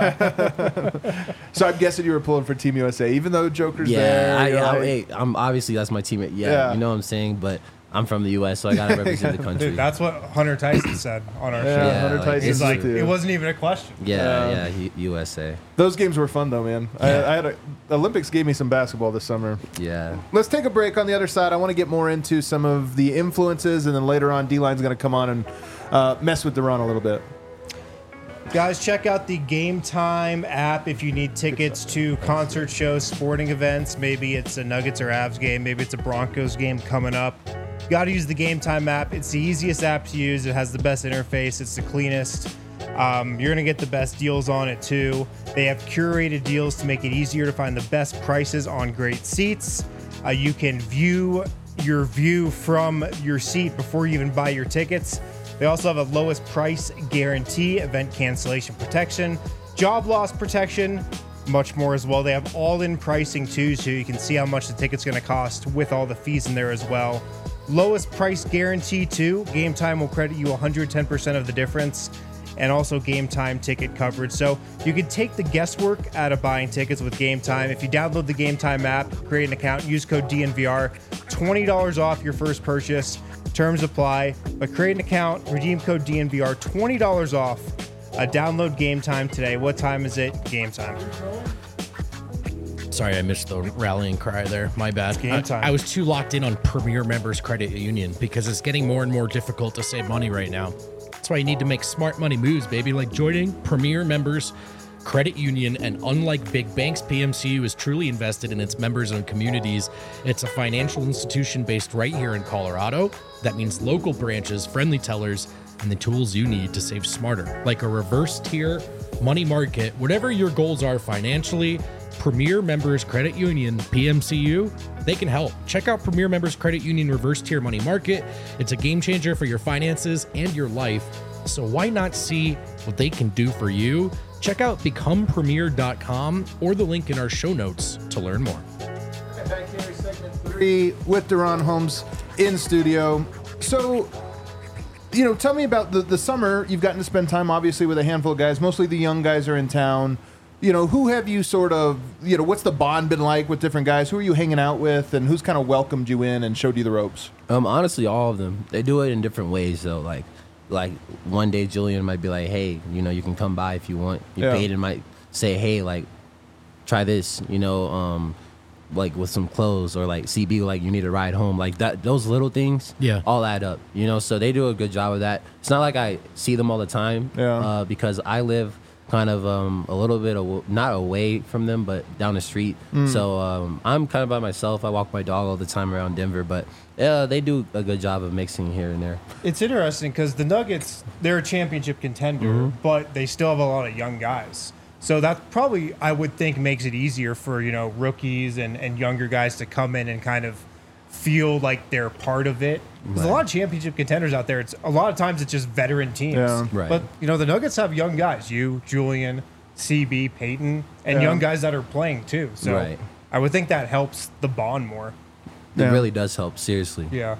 S1: Yeah. So I'm guessing you were pulling for Team USA, even though Joker's there.
S4: yeah,
S1: you're like-
S4: I'm obviously that's my teammate. Yeah,
S1: Yeah.
S4: you know what I'm saying. But I'm from the U.S., so I gotta represent the country.
S2: Dude, that's what Hunter Tyson said on our
S1: Yeah,
S2: show.
S1: Hunter
S4: like,
S1: Tyson
S2: He's like,
S1: too.
S2: it wasn't even a question.
S4: Yeah, USA.
S1: Those games were fun though, man. I had the Olympics gave me some basketball this summer.
S4: Yeah.
S1: Let's take a break. On the other side, I want to get more into some of the influences, and then later on, D-Line's going to come on and mess with Deron a little bit.
S2: Guys, check out the Game Time app if you need tickets to concert shows, sporting events. Maybe it's a Nuggets or Avs game. Maybe it's a Broncos game coming up. You got to use the Game Time app. It's the easiest app to use. It has the best interface. It's the cleanest. You're going to get the best deals on it, too. They have curated deals to make it easier to find the best prices on great seats. You can view your view from your seat before you even buy your tickets. They also have a lowest price guarantee, event cancellation protection, job loss protection, much more as well. They have all-in pricing too, so you can see how much the ticket's going to cost with all the fees in there as well. Lowest price guarantee too. Game Time will credit you 110% of the difference, and also Game Time ticket coverage. So you can take the guesswork out of buying tickets with Game Time. If you download the Game Time app, create an account, use code DNVR, $20 off your first purchase. Terms apply, but create an account, redeem code DNVR, $20 off. Download Game Time today. What time is it? Game Time.
S3: sorry, I missed the rallying cry there. My bad.
S2: Game time.
S3: I was too locked in on Premier Members Credit Union because it's getting more and more difficult to save money right now. That's why you need to make smart money moves, baby, like joining Premier Members Credit Union. And unlike big banks, PMCU is truly invested in its members and communities. It's a financial institution based right here in Colorado. That means local branches, friendly tellers, and the tools you need to save smarter, like a reverse tier money market. Whatever your goals are financially, Premier Members Credit Union, PMCU, they can help. Check out Premier Members Credit Union Reverse Tier Money Market. It's a game changer for your finances and your life. So why not see what they can do for you? Check out becomepremier.com or the link in our show notes to learn more.
S1: Back here, segment 3 with Deron Holmes in studio. So, you know, tell me about the summer. You've gotten to spend time, obviously, with a handful of guys. Mostly the young guys are in town. You know, who have you sort of, you know, what's the bond been like with different guys? Who are you hanging out with, and who's kind of welcomed you in and showed you the ropes?
S4: Honestly, all of them. They do it in different ways, though. Like one day Julian might be like, hey, you know, you can come by if you want.
S1: Yeah.
S4: Peyton might say, hey, like, try this. You know, like with some clothes, or like CB, like you need a ride home, like that. Those little things, all add up, you know. So they do a good job of that. It's not like I see them all the time, because I live kind of a little bit not away from them, but down the street. So I'm kind of by myself. I walk my dog all the time around Denver, but they do a good job of mixing here and there.
S2: It's interesting because the Nuggets, they're a championship contender, but they still have a lot of young guys. So that probably, I would think, makes it easier for, you know, rookies and younger guys to come in and kind of feel like they're part of it. There's a lot of championship contenders out there. It's a lot of times it's just veteran teams.
S1: Yeah.
S4: Right.
S2: But, you know, the Nuggets have young guys. You, Julian, CB, Peyton, and young guys that are playing too. So I would think that helps the bond more.
S4: It really does help, seriously.
S2: Yeah.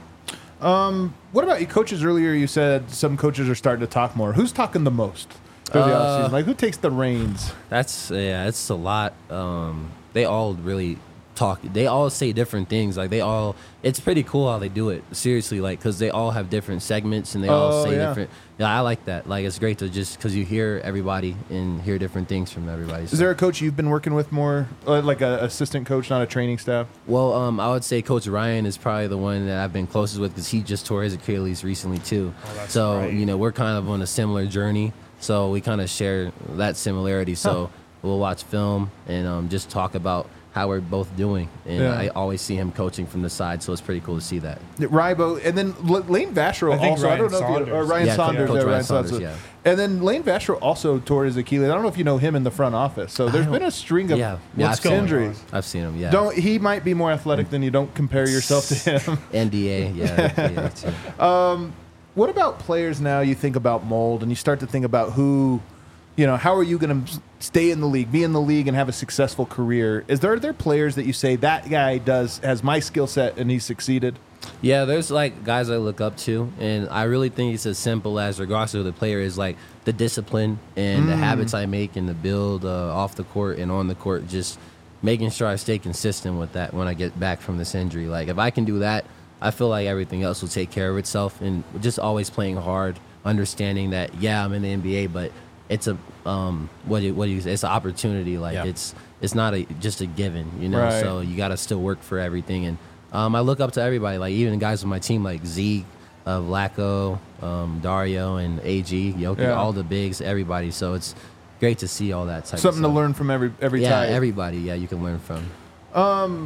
S1: What about you coaches? Earlier you said some coaches are starting to talk more. Who's talking the most for the offseason? Like, who takes the reins?
S4: It's a lot. They all really talk. They all say different things. Like it's pretty cool how they do it. Seriously, like, because they all have different segments and they all say different. Yeah, I like that. Like, it's great to just, because you hear everybody and hear different things from everybody. So.
S1: Is there a coach you've been working with more, like an assistant coach, not a training staff?
S4: Well, I would say Coach Ryan is probably the one that I've been closest with, because he just tore his Achilles recently too. So you know, we're kind of on a similar journey. So we kind of share that similarity. So we'll watch film and just talk about how we're both doing. And I always see him coaching from the side, so it's pretty cool to see that.
S1: Rybo, and then Lane Vashro also.
S2: Ryan
S1: I don't know
S2: Saunders.
S1: if you, Ryan Saunders.
S4: Coach
S1: Ryan
S4: Ryan
S1: Saunders.
S4: Saunders, yeah.
S1: And then Lane Vashro also tore his Achilles. I don't know if you know him in the front office. So there's been a string of injuries.
S4: I've seen him, yeah.
S1: He might be more athletic than you. Don't compare yourself to him.
S4: NDA, yeah. too.
S1: What about players now? You think about mold, and you start to think about who, you know, how are you going to stay in the league, be in the league, and have a successful career? Are there players that you say that guy has my skill set and he's succeeded?
S4: Yeah, there's like guys I look up to, and I really think it's as simple as, regardless of who the player is, like the discipline and the habits I make and the build off the court and on the court, just making sure I stay consistent with that when I get back from this injury. Like, if I can do that, I feel like everything else will take care of itself. And just always playing hard, understanding that, I'm in the NBA, but it's a it's an opportunity. Like, it's not just a given, you know.
S1: Right.
S4: So you got to still work for everything. And I look up to everybody, like even guys on my team, like Zeke, Vlaco, Dario, and AG, Jokic, all the bigs, everybody. So it's great to see all that type.
S1: Something
S4: of
S1: to learn from every type.
S4: Everybody. Yeah, you can learn from.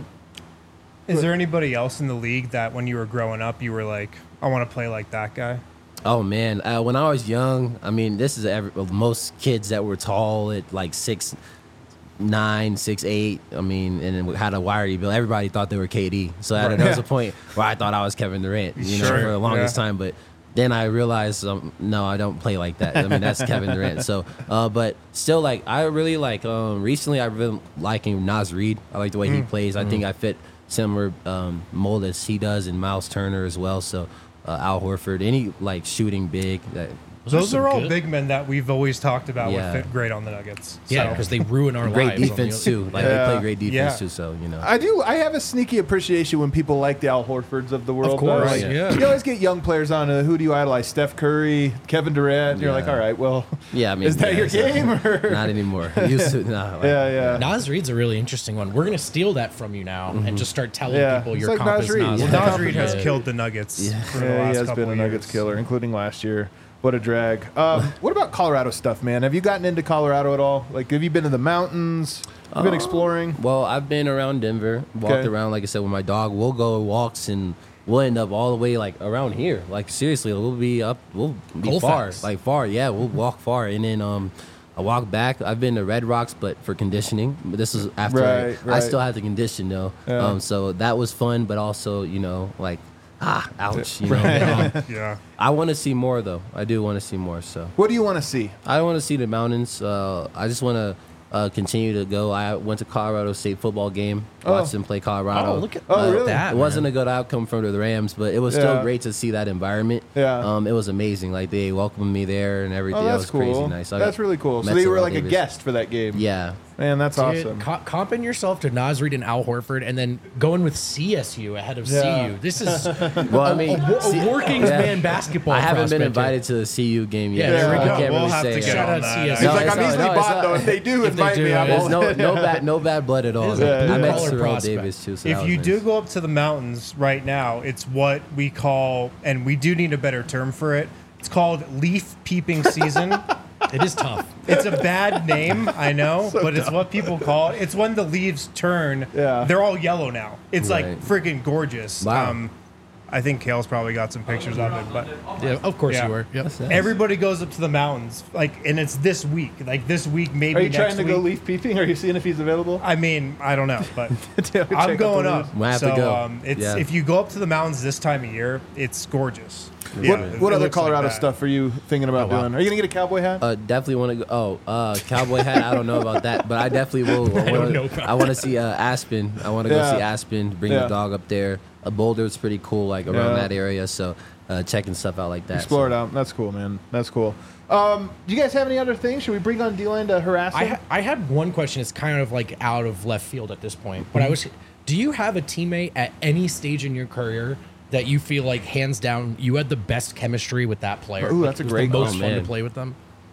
S2: Is there anybody else in the league that when you were growing up, you were like, I want to play like that guy?
S4: Oh man, when I was young, I mean, this is most kids that were tall at like 6'9", 6'8". I mean, and had a wiry build. Everybody thought they were KD. So there was a point where I thought I was Kevin Durant, you know, for the longest time. But then I realized, no, I don't play like that. I mean, that's Kevin Durant. So, but still, like, I really like. Recently, I've been liking Naz Reid. I like the way he plays. I think I fit similar mold as he does, and Miles Turner as well. So Al Horford, any like shooting big.
S2: Those are all big men that we've always talked about would fit great on the Nuggets.
S3: Yeah, because they ruin our
S4: great
S3: lives.
S4: Defense too. Like they play great defense too. So you know,
S1: I have a sneaky appreciation when people like the Al Horfords of the world.
S3: Of course,
S1: like, you always get young players on. Who do you idolize? Steph Curry, Kevin Durant. You're like, all right, well,
S4: I mean,
S1: is that your game? Or?
S4: Not anymore. Used to,
S3: Naz Reid's a really interesting one. We're gonna steal that from you now and just start telling people
S1: It's
S3: your
S1: like
S3: comp
S1: Naz
S3: is
S1: Reid.
S3: Naz
S1: Well,
S3: Reid.
S2: Naz Reid has killed the Nuggets. For the last
S1: he has
S2: couple
S1: been a
S2: of
S1: Nuggets
S2: years.
S1: killer, including last year. What a drag. What about Colorado stuff, man? Have you gotten into Colorado at all? Like, have you been to the mountains? You've been exploring?
S4: Well, I've been around Denver, walked around, like I said, with my dog. We'll go walks and we'll end up all the way like around here. Like seriously, we'll be far, like far. Yeah, we'll walk far, and then I walk back. I've been to Red Rocks, but for conditioning. But this is after I still had to condition though.
S1: Yeah.
S4: So that was fun, but also like. Ouch! You know, I want to see more though. I do want to see more. So,
S1: what do you want to see?
S4: I want to see the mountains. I just want to continue to go. I went to Colorado State football game. Watched them play Colorado.
S3: Oh, look at
S1: really?
S3: that!
S4: It wasn't a good outcome for the Rams, but it was still great to see that environment.
S1: Yeah.
S4: It was amazing. Like they welcomed me there and everything.
S1: Oh,
S4: That
S1: that's
S4: was
S1: cool.
S4: crazy nice.
S1: That's really cool. So they were like a guest for that game.
S4: Yeah.
S1: Man, that's awesome.
S3: Comping yourself to Naz Reid and Al Horford, and then going with CSU ahead of
S1: Yeah.
S3: CU. This is
S4: Well, I mean,
S3: a working man basketball.
S4: I haven't been
S3: prospect
S4: invited to the CU game yet.
S3: Yeah, there we
S4: so
S3: go.
S4: I can't
S2: We'll
S4: really
S2: have
S4: say
S2: to get
S3: Shout
S2: on
S3: out
S2: that.
S3: CSU.
S1: He's like,
S4: it's
S1: I'm
S4: not-
S1: easily
S4: no, it's
S1: bought,
S4: not-
S1: though. If they do
S3: If they
S1: invite
S3: do,
S1: me, I'm
S3: there's
S1: all
S4: There's no bad blood at all.
S1: Yeah,
S4: I met
S3: Baller
S4: Terrell
S3: prospect.
S4: Davis too. So that
S2: If
S4: was
S2: you
S4: nice.
S2: do go up to the mountains right now, it's what we call, and we do need a better term for it. It's called leaf peeping season.
S3: It is tough.
S2: It's a bad name, I know, but it's what people call it. It's when the leaves turn.
S1: Yeah.
S2: They're all yellow now. It's like
S4: Right.
S2: freaking gorgeous.
S4: Wow.
S2: I think Kale's probably got some pictures of it, but
S3: Yeah, of course
S2: Yeah.
S3: you were. Yep.
S4: Nice.
S2: everybody goes up to the mountains, like, and it's this week. Like this week, maybe
S1: Are you
S2: next
S1: trying to
S2: week.
S1: go leaf peeping? Are you seeing if he's available?
S2: I mean, I don't know, but
S1: Check out
S2: I'm
S1: the
S2: going
S1: leaves.
S2: up.
S4: Might have
S2: so
S4: to go.
S2: it's
S4: Yeah.
S2: if you go up to the mountains this time of year, it's gorgeous. Yeah,
S1: What
S2: it
S1: other
S2: looks like
S1: Colorado
S2: that.
S1: stuff are you thinking about
S3: Oh, wow.
S1: doing? Are you gonna get a cowboy hat?
S4: Definitely want to go. Cowboy hat. I don't know about that, but I definitely will.
S3: don't know about
S4: I want to see Aspen. I want to go
S1: Yeah.
S4: see Aspen. Bring
S1: Yeah.
S4: the dog up there. Boulder's pretty cool, like around
S1: Yeah.
S4: that area. So checking stuff out like that.
S1: Explore
S4: so.
S1: it out. That's cool, man. That's cool. Do you guys have any other things? Should we bring on D-Line to harass him?
S3: I had one question. It's kind of like out of left field at this point, but I was. Do you have a teammate at any stage in your career that you feel like hands down you had the best chemistry with that player?
S1: Ooh,
S3: Like,
S1: that's a
S3: it was
S1: great
S3: the most
S4: call.
S3: fun to
S4: Man.
S3: play with them.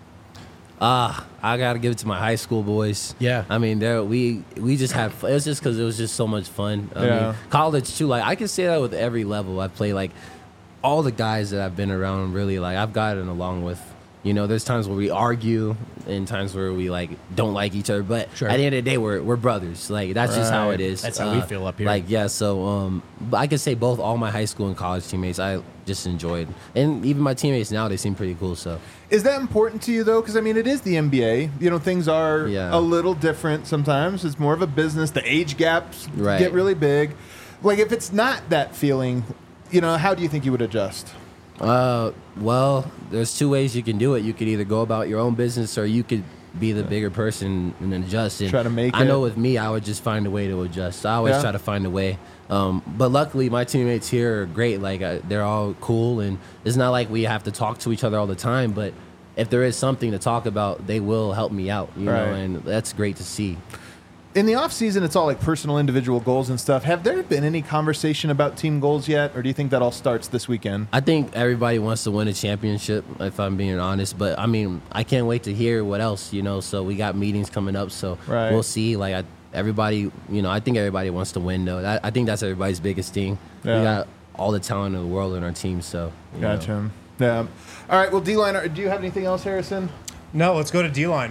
S4: I gotta give it to my high school boys.
S3: Yeah.
S4: I mean, we just had. It was just because it was just so much fun. I
S1: Yeah.
S4: mean, college too. Like I can say that with every level I play. Like all the guys that I've been around, really, like I've gotten along with. You know, there's times where we argue and times where we like don't like each other, but
S3: Sure.
S4: at the end of the day, we're brothers. Like that's just how
S1: Right.
S4: it is.
S3: That's how we feel up here.
S4: Like yeah, so but I can say both all my high school and college teammates I just enjoyed, and even my teammates now they seem pretty cool. So
S1: Is that important to you though? Because I mean, it is the NBA. You know, things are
S4: Yeah.
S1: a little different sometimes. It's more of a business. The age gaps
S4: Right.
S1: get really big. Like if it's not that feeling, you know, how do you think you would adjust?
S4: Well, there's two ways you can do it. You could either go about your own business, or you could be the bigger person and adjust. And
S1: Try to make
S4: I know
S1: it.
S4: with me, I would just find a way to adjust. I always
S1: Yeah.
S4: try to find a way. But luckily, my teammates here are great. Like they're all cool, and it's not like we have to talk to each other all the time. But if there is something to talk about, they will help me out. You know,
S1: Right.
S4: and that's great to see.
S1: In the off season, it's all like personal, individual goals and stuff. Have there been any conversation about team goals yet, or do you think that all starts this weekend?
S4: I think everybody wants to win a championship, if I'm being honest. But I mean, I can't wait to hear what else, you know. So we got meetings coming up, so
S1: Right.
S4: we'll see. Like everybody, you know, I think everybody wants to win, though. I think that's everybody's biggest thing.
S1: Yeah.
S4: We got all the talent in the world in our team, so you know.
S1: Gotcha. Yeah. All right. Well, D-Line, do you have anything else, Harrison?
S2: No, let's go to D-line.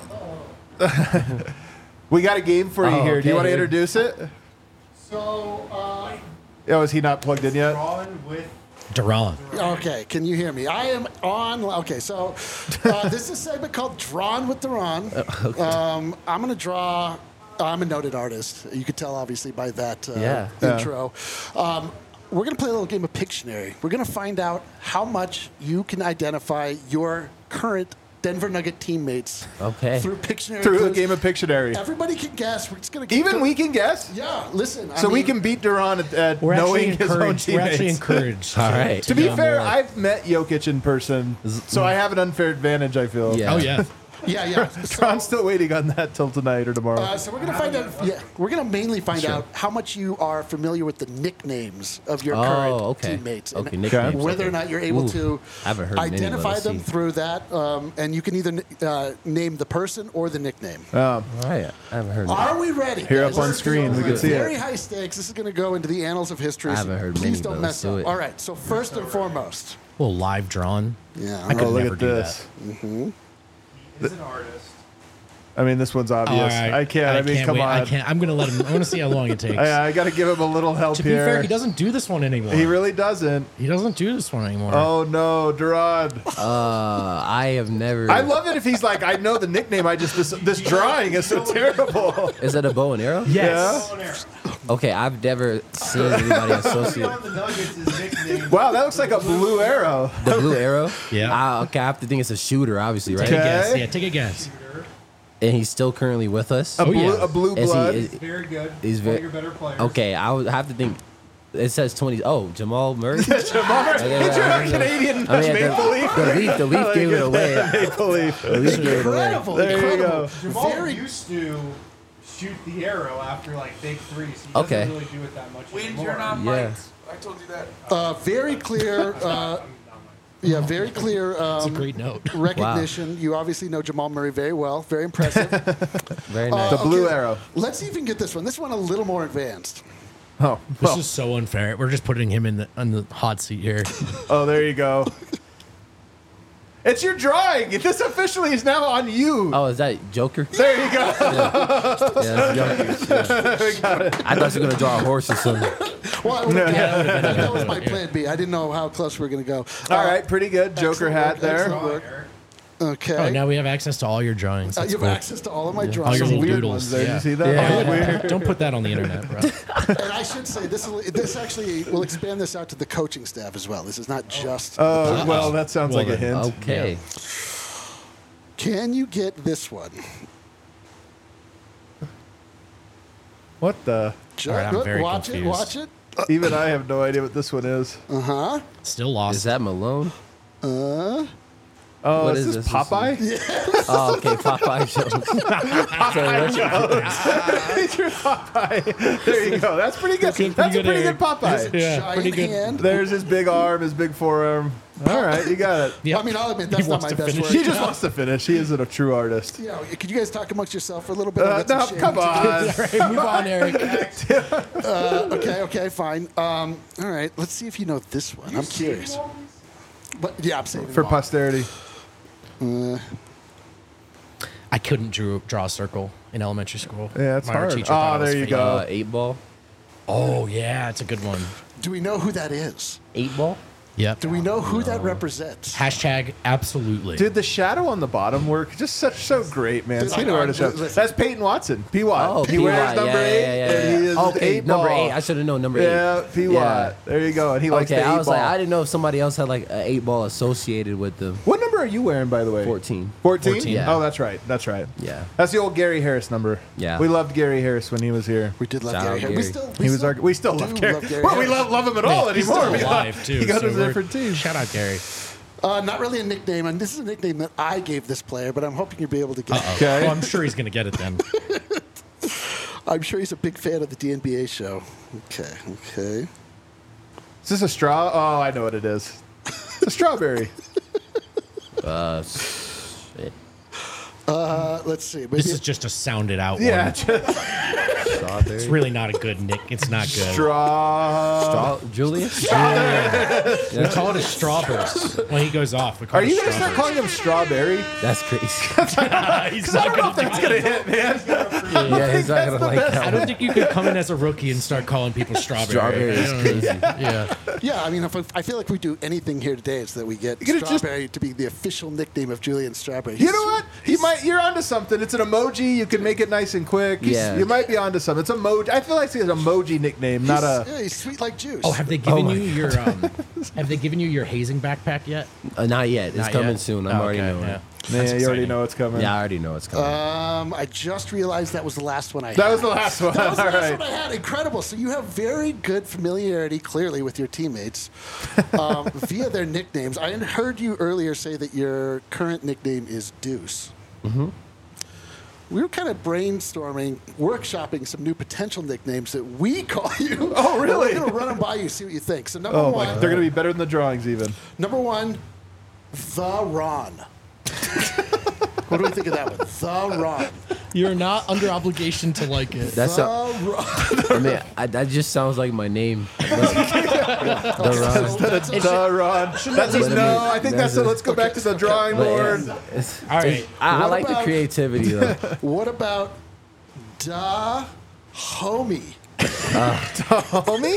S1: We got a game for you
S4: Oh,
S1: here. Do you
S4: okay.
S1: want to introduce it?
S5: So,
S1: Oh, is he not plugged in yet?
S2: Drawn with
S3: Duran.
S5: okay, can you hear me? I am on. Okay, so this is a segment called Drawn with Duran. I'm going to draw. I'm a noted artist. You could tell, obviously, by that
S4: Yeah.
S5: intro. We're going to play a little game of Pictionary. We're going to find out how much you can identify your current Denver Nugget teammates
S4: Okay.
S5: through Pictionary.
S1: Through the
S5: clues.
S1: game of Pictionary.
S5: Everybody can guess. We're just going to
S1: Even we can guess?
S5: Yeah, listen.
S1: So
S5: I
S1: we
S5: mean,
S1: can beat Duran at
S3: We're actually
S1: knowing his own
S3: encouraged. We're actually
S1: teammates.
S3: encouraged.
S4: All right.
S1: To be
S3: Yeah.
S1: fair, I've met Jokic in person, so I have an unfair advantage, I feel.
S4: Yeah.
S3: Oh yeah.
S5: Yeah.
S1: Duran's still waiting on that till tonight or tomorrow.
S5: So we're gonna find out. Yeah, we're gonna mainly find out how much you are familiar with the nicknames of your current
S4: okay.
S5: teammates,
S4: Okay,
S5: and
S4: nicknames,
S5: whether
S4: okay.
S5: or not you're able
S4: Ooh,
S5: to
S4: I haven't heard many, but
S5: identify
S4: let's
S5: them
S4: see.
S5: through that. And you can either name the person or the nickname.
S4: All right. I haven't heard.
S5: Are we ready?
S1: Here
S5: guys?
S1: up on screen, we can see it.
S5: Very high stakes. This is going to go into the annals of history.
S4: I
S5: so
S4: haven't heard
S5: Please
S4: many,
S5: don't
S4: but
S5: mess
S4: let's do
S5: up.
S4: it.
S5: All right. So first and foremost,
S3: Well, live drawn.
S5: yeah.
S3: I could
S1: Oh, look
S3: never
S1: at
S3: do
S1: this.
S2: He's an artist.
S1: I mean, this one's
S3: that.
S1: obvious.
S3: All right.
S1: I can't. I mean, come
S3: wait.
S1: on.
S3: I can't. I'm gonna let him. I want to see how long it takes.
S1: I got to give him a little help
S3: To be
S1: here.
S3: fair, he doesn't do this one anymore.
S1: He really doesn't.
S3: He doesn't do this one anymore.
S1: Oh no, Duran.
S4: I have never.
S1: I love it if he's like, I know the nickname. I just this drawing is so terrible.
S4: Is that a bow and arrow?
S3: yes.
S4: Okay, I've never seen anybody associate
S2: the Nuggets is nicknamed.
S1: Wow, that looks like a blue arrow.
S4: the blue arrow.
S3: Yeah.
S4: Okay, I have to think it's a shooter, obviously, right?
S3: Take a
S1: Okay.
S3: guess. Yeah, take a guess.
S4: And he's still currently with us.
S1: A
S3: Oh,
S1: blue,
S3: yeah.
S1: a blue
S4: Is he-
S1: blood.
S4: is-
S2: Very good.
S4: He's
S2: One of
S4: very
S2: your better players.
S4: okay. I would have to think. It says 20. Oh, Jamal Murray.
S1: Jamal Murray. Did you have a Canadian Maple Leaf?
S4: The Leaf gave it away.
S1: Maple Leaf.
S4: The Leaf gave it away.
S5: Incredible.
S1: There you
S5: incredible.
S1: go.
S2: Jamal
S5: Very
S2: used to shoot the arrow after like big threes. He doesn't
S4: Okay.
S2: really do it that much
S6: Wait,
S2: anymore.
S6: you're not
S4: Yeah.
S6: mic'd. I told you that.
S5: Very clear. Yeah, very clear.
S3: It's a great note.
S5: Recognition. You obviously know Jamal Murray very well. Very impressive.
S4: Very nice.
S1: The blue
S5: Okay,
S1: arrow.
S5: Let's even get this one. This one a little more advanced.
S1: Oh,
S3: This
S1: well.
S3: is so unfair. We're just putting him on the hot seat here.
S1: Oh, there you go. It's your drawing. This officially is now on you.
S4: Oh, is that Joker?
S1: There you go.
S4: Yeah, that's Joker.
S1: We got it.
S4: I thought you were gonna draw a horse or something.
S5: Well, that was my plan B. I didn't know how close we were going to go.
S1: All right, pretty good. Joker
S5: excellent
S1: hat
S5: work,
S1: there.
S5: excellent work. Okay.
S3: Oh, now we have access to all your drawings. That's
S5: you have
S3: cool.
S5: access to all of my
S3: All
S5: drawings.
S3: your
S1: Some
S3: little
S1: weird
S3: doodles.
S1: ones there.
S3: Yeah.
S1: You see that?
S3: Yeah.
S1: Oh, weird.
S3: Don't put that on the internet, bro.
S5: And I should say, this actually will expand this out to the coaching staff as well. This is not just.
S1: Oh, well, that sounds
S3: Well
S1: like a
S3: then.
S1: hint.
S4: Okay.
S5: Can you get this one?
S1: What the?
S5: Ju-
S3: right, I'm very
S5: watch
S3: confused.
S5: it. Watch it.
S1: Even I have no idea what this one is.
S3: Still lost.
S4: Is that Malone?
S1: Oh,
S4: What
S1: is
S4: is
S1: this
S4: this?
S1: Popeye?
S4: Oh, okay. Popeye Jones.
S1: Picture Popeye. There you go. That's pretty good.
S3: Pretty
S1: That's a
S3: good,
S1: pretty
S3: Eric.
S1: good Popeye.
S3: Yeah,
S5: Giant
S3: pretty good.
S5: hand.
S1: There's his big arm, his big forearm. All right, you got it.
S3: Yep.
S5: I mean, I'll admit that's
S3: He
S5: not
S3: wants
S5: my
S3: to
S5: best
S3: finish.
S5: work.
S1: He just wants to finish. He isn't a true artist.
S5: You know, could you guys talk amongst yourself for a little bit? I'll get some
S1: No,
S5: shade.
S1: come on.
S3: Move on, Eric.
S5: Okay, fine. All right, let's see if you know this one. I'm curious. But yeah, I'm saving
S1: For
S5: them all.
S1: posterity.
S3: I couldn't draw a circle in elementary school.
S1: Yeah, it's
S3: My art
S1: hard.
S3: teacher thought
S1: Oh,
S3: it was
S1: there you
S3: fake.
S1: go.
S4: 8 ball.
S3: Oh, yeah, it's a good one.
S5: Do we know who that is?
S4: 8 ball.
S3: Yep.
S5: Do we know who that represents?
S3: Hashtag absolutely.
S1: Did the shadow on the bottom work? Just so great, man.
S5: Dude,
S1: See
S5: I
S1: the
S5: know.
S1: artist.
S5: Listen.
S1: That's Peyton Watson. P. Watt.
S4: Oh,
S1: he wears
S4: P-Watt.
S1: number 8. And he is
S4: Okay,
S1: eight
S4: number
S1: ball.
S4: 8. I should have known number 8.
S1: Yeah, P. Watt. There you go. And he likes
S4: Okay,
S1: the 8
S4: I was
S1: ball.
S4: like, I didn't know if somebody else had like an 8 ball associated with them.
S1: What number are you wearing, by the way?
S4: 14.
S1: 14?
S3: 14.
S4: Yeah.
S1: Oh, that's right. That's right.
S4: Yeah.
S1: That's the old Gary Harris number.
S4: Yeah.
S1: We loved Gary Harris when he was here.
S5: We did love
S4: Shout
S5: Gary
S4: out
S5: Harris.
S4: Gary.
S1: We still
S5: do
S1: love Gary.
S5: Gary
S1: Well, we
S5: Harris.
S1: love him at all
S3: He's
S1: anymore.
S3: still alive, too.
S1: He got
S3: so
S1: us a
S3: we're-
S1: different team.
S3: Shout out, Gary.
S5: Not really a nickname, and this is a nickname that I gave this player, but I'm hoping you'll be able to get it.
S1: Okay.
S3: Well, I'm sure he's going to get it then.
S5: I'm sure he's a big fan of the DNBA show. Okay.
S1: Is this a straw? Oh, I know what it is. It's a strawberry.
S4: Shit.
S5: Let's see. Maybe
S3: This is just a sounded out
S1: Yeah,
S3: one.
S1: just
S4: Strawberry.
S3: It's really not a good nick. It's not good.
S1: straw.
S4: Julius?
S3: We call it a strawburst when he goes off. We call
S1: Are
S3: it
S1: you
S3: a
S1: going to start calling him strawberry?
S4: That's crazy.
S3: He's
S1: I
S3: not
S1: don't know
S3: going
S1: if
S3: to
S1: that's
S3: do
S1: going to
S3: it.
S1: hit, man.
S4: Yeah, he's not gonna like
S3: I
S4: that.
S3: don't think you could come in as a rookie and start calling people strawberry.
S4: Strawberry is crazy.
S3: Yeah.
S5: Yeah, I mean, I feel like we do anything here today, it's that we get
S1: You're gonna
S5: Strawberry to be the official nickname of Julian Strawberry.
S1: You know what? You're onto something. It's an emoji. You can make it nice and quick.
S4: Yeah.
S1: You might be onto something. It's emoji. I feel like it's an emoji nickname, not a.
S5: Yeah, he's sweet like juice.
S3: Oh, have they given you your have they given you your hazing backpack yet?
S4: Not yet. It's
S3: Not
S4: coming
S3: yet?
S4: soon. I'm
S3: Oh,
S4: already
S3: okay,
S4: knowing.
S3: yeah.
S1: Man,
S3: That's
S1: you already
S3: exciting.
S1: know it's coming.
S4: Yeah, I already know it's coming.
S5: I just realized that was the last one I had.
S1: That was the last one.
S5: That was the
S1: All
S5: last
S1: right.
S5: one I had. Incredible. So you have very good familiarity, clearly, with your teammates via their nicknames. I heard you earlier say that your current nickname is Deuce. Mm-hmm. We were kind of brainstorming, workshopping some new potential nicknames that we call you.
S1: Oh, really?
S5: We're going to run them by you, see what you think. So number
S1: Oh
S5: one,
S1: my! They're gonna be better than the drawings, even.
S5: number one, the Ron. What do we think of that one? The Ron.
S3: You're not under obligation to like it.
S4: That's
S5: The
S4: a,
S5: Ron.
S4: I mean, that just sounds like my name.
S5: So that's a-
S1: The Ron. That's just no. I think that's. Let's go back to the drawing
S4: But
S1: board.
S4: it's-
S3: All right.
S4: I
S5: What
S4: like the
S5: about-
S4: creativity though.
S5: What about Da Homie?
S1: Homie?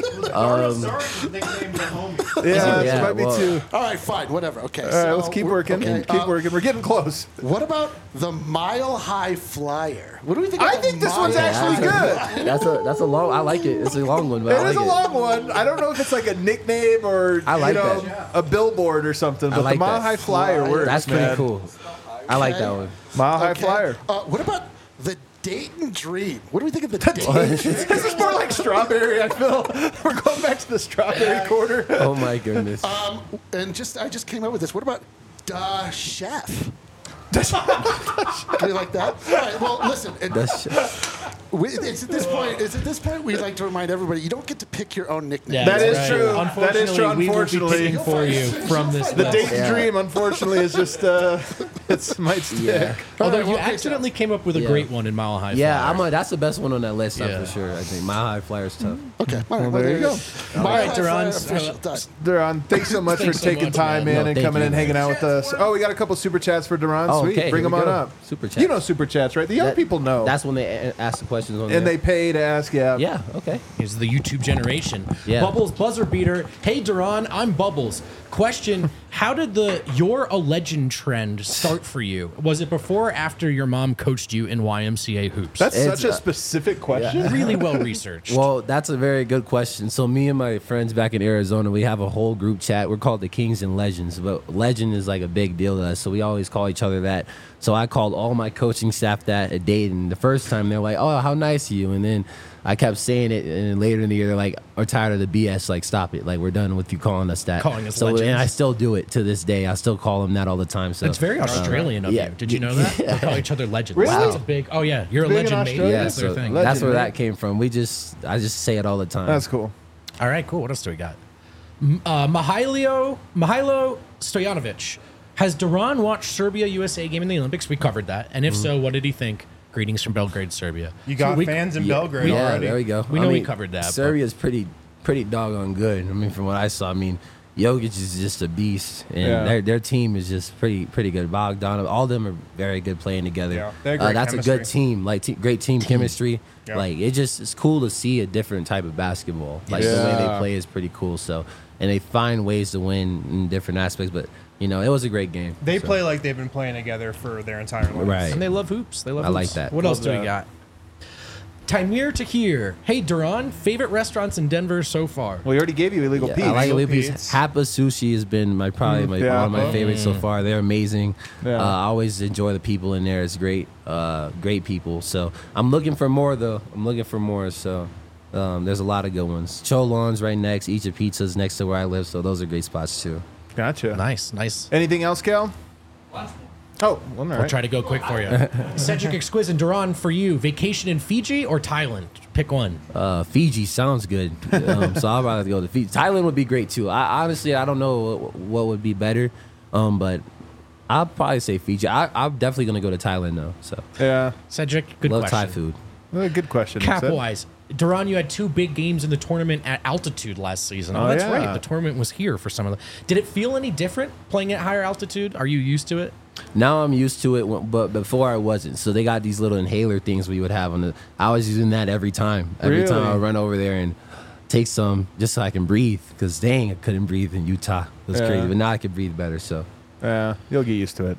S1: Yeah,
S4: Yeah,
S1: this might be
S4: well-
S1: too.
S5: All right, fine, whatever. Okay.
S1: All right, let's keep working. Keep working. We're getting close.
S5: What about the Mile High Flyer? What do we think?
S1: I
S5: of the
S1: think this one's
S5: Mile
S1: actually
S5: High-
S1: good.
S4: That's a long. I like it. It's a long one, but I
S1: It
S4: like
S1: is a
S4: it.
S1: long one. I don't know if it's like a nickname or
S4: I like
S1: that. A billboard or something. But
S4: like
S1: the Mile
S4: that.
S1: High Flyer works.
S4: That's pretty
S1: man.
S4: cool. I like
S5: Okay.
S4: that one.
S1: Mile High
S5: Okay.
S1: Flyer.
S5: What about the Dayton Dream. What do we think of the Dayton?
S1: This is more like strawberry, I feel. We're going back to the strawberry quarter.
S4: Oh my goodness.
S5: And I just came up with this. What about Da Chef? Do you like that? All right. Well, listen. It's at this point we'd like to remind everybody you don't get to pick your own nickname.
S3: Yeah,
S1: That is
S3: right.
S1: true.
S3: Unfortunately,
S1: That is true.
S3: we will be
S1: Unfortunately.
S3: picking for you from this
S1: The
S3: list.
S1: Dayton Dream, unfortunately, is just it might stick.
S4: Yeah.
S3: Although
S5: All right,
S3: you
S5: well,
S3: accidentally came up with a
S4: Yeah.
S3: great one in Mile High.
S4: Yeah,
S3: Flyer.
S4: that's the best one on that list,
S3: Yeah.
S4: for sure. I think Mile High Flyer's tough.
S5: Okay. All right.
S1: Well, there you go.
S5: All
S3: right, Duran.
S1: Duran, thanks so much
S3: Thanks
S1: for
S3: so
S1: taking
S3: much,
S1: time,
S3: man.
S1: man,
S4: No,
S1: and
S4: thank
S1: coming
S4: you.
S1: and hanging out with us. Oh, we got a couple super chats for Duran.
S4: Oh,
S1: Sweet.
S4: okay,
S1: Bring
S4: here
S1: them
S4: we
S1: on
S4: go.
S1: up.
S4: Super chats.
S1: You know super chats, right? The young people know.
S4: That's when they ask the questions on
S1: and
S4: there.
S1: they pay to ask, yeah.
S4: Yeah, okay.
S3: Here's the YouTube generation.
S4: Yeah.
S3: Bubbles buzzer beater. Hey Duran, I'm Bubbles. Question: how did the "you're a legend" trend start for you? Was it before or after your mom coached you in YMCA hoops?
S1: That's
S4: It's,
S1: such a specific question.
S3: really well researched.
S4: Well, that's a very good question. So me and my friends back in Arizona, we have a whole group chat. We're called the Kings and Legends, but legend is like a big deal to us. So we always call each other that. So I called all my coaching staff that at Dayton. The first time they're like, "Oh, how nice of you," and then I kept saying it, and then later in the year they're like, "We're tired of the BS. Like, stop it. Like, we're done with you calling us that."
S3: Calling us
S4: so,
S3: legends.
S4: and I still do it to this day. I still call them that all the time. So
S3: It's very Australian of
S4: yeah.
S3: you. Did you know that? They call each other legends.
S1: Really?
S3: That's a big. Oh yeah, you're a
S1: Big in
S3: legend, mate.
S1: Australia?
S3: That's their
S4: so
S3: thing.
S1: Legend,
S4: that's where
S1: right?
S4: that came from. I just say it all the time.
S1: That's cool.
S3: All right, cool. What else do we got? Mihailo Stojanovic. Has Duran watched Serbia-USA game in the Olympics? We covered that. And if so, what did he think? Greetings from Belgrade, Serbia.
S2: You got fans in Belgrade
S4: Yeah,
S2: already.
S4: there we go.
S3: We know we covered that, but-
S4: Serbia's pretty doggone good. I mean, from what I saw, I mean, Jokic is just a beast, and
S1: Yeah.
S4: their team is just pretty good. Bogdanov, all of them are very good playing together.
S2: Yeah, they have great
S4: that's a good
S2: chemistry.
S4: team, like great team chemistry.
S2: Yeah.
S4: Like it's cool to see a different type of basketball. Like the way
S1: Yeah.
S4: they play is pretty cool. So, and they find ways to win in different aspects. But you know, it was a great game.
S2: They
S4: So,
S2: play like they've been playing together for their entire lives.
S4: Right.
S3: And they love hoops. They love
S4: I
S3: hoops.
S4: like that.
S3: What
S1: Love
S3: else do we
S1: that.
S3: got? Timir Tahir. Hey, Duran, favorite restaurants in Denver so far?
S1: Well, we already gave you Illegal
S4: Yeah,
S1: Pete.
S4: I like
S2: Illegal
S4: Illegal
S2: Pete's.
S4: Pete's. Hapa Sushi has been one of my favorites so far. They're amazing.
S1: Yeah.
S4: I always enjoy the people in there. It's great, great people. So I'm looking for more though. So there's a lot of good ones. Cholon's right next. Egypt Pizza's next to where I live. So those are great spots too.
S1: Gotcha.
S3: Nice, nice.
S1: Anything else, Cal? Oh, well, all
S3: I'll
S1: right.
S3: try to go quick for you. Cedric Exquisite, Duran, for you, vacation in Fiji or Thailand? Pick one.
S4: Fiji sounds good. So I'd rather go to Fiji. Thailand would be great too. I honestly don't know what would be better, but I'll probably say Fiji. I'm definitely gonna go to Thailand though. So
S1: Yeah.
S3: Cedric, good
S4: love
S3: question.
S4: Thai food.
S1: Good question.
S3: Cap
S1: Sid.
S3: wise, Duran, you had two big games in the tournament at altitude last season. Oh,
S1: Oh,
S3: that's
S1: yeah.
S3: right. The tournament was here for some of them. Did it feel any different playing at higher altitude? Are you used to it?
S4: Now I'm used to it, but before I wasn't. So they got these little inhaler things we would have on the. I was using that every time. Every time I
S1: Really?
S4: would run over there and take some just so I can breathe. Because dang, I couldn't breathe in Utah. It was
S1: Yeah.
S4: crazy. But now I can breathe better. So
S1: Yeah, you'll get used to it.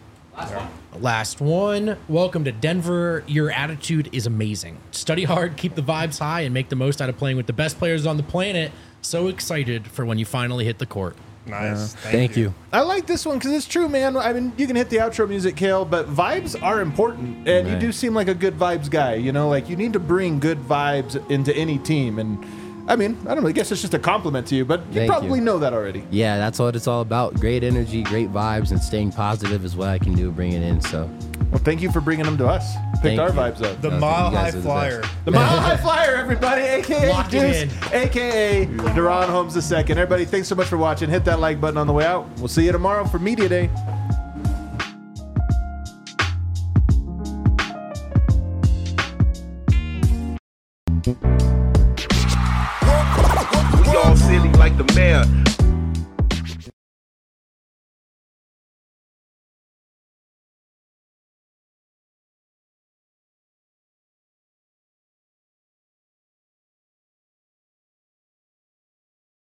S3: Last one. Welcome to Denver. Your attitude is amazing. Study hard, keep the vibes high, and make the most out of playing with the best players on the planet. So excited for when you finally hit the court.
S2: Nice.
S4: thank you.
S1: I like this one because it's true, man. I mean, you can hit the outro music, Kale, but vibes are important, and you
S4: Right.
S1: do seem like a good vibes guy. You know, like you need to bring good vibes into any team, and I mean, I don't know. I guess it's just a compliment to you, but you
S4: Thank
S1: probably
S4: you.
S1: know that already.
S4: Yeah, that's what it's all about. Great energy, great vibes, and staying positive is what I can do. Bring it in. So
S1: Well, thank you for bringing them to us. Picked
S4: Thank
S1: our
S4: you.
S1: vibes up.
S2: The
S4: No,
S2: Mile
S4: you guys
S2: High
S4: are the
S2: Flyer.
S4: best.
S1: The Mile High Flyer, everybody, a.k.a.
S3: Lock it
S1: Deuce,
S3: in.
S1: a.k.a. Duran Holmes II. Everybody, thanks so much for watching. Hit that like button on the way out. We'll see you tomorrow for Media Day.
S7: We all silly like the mayor.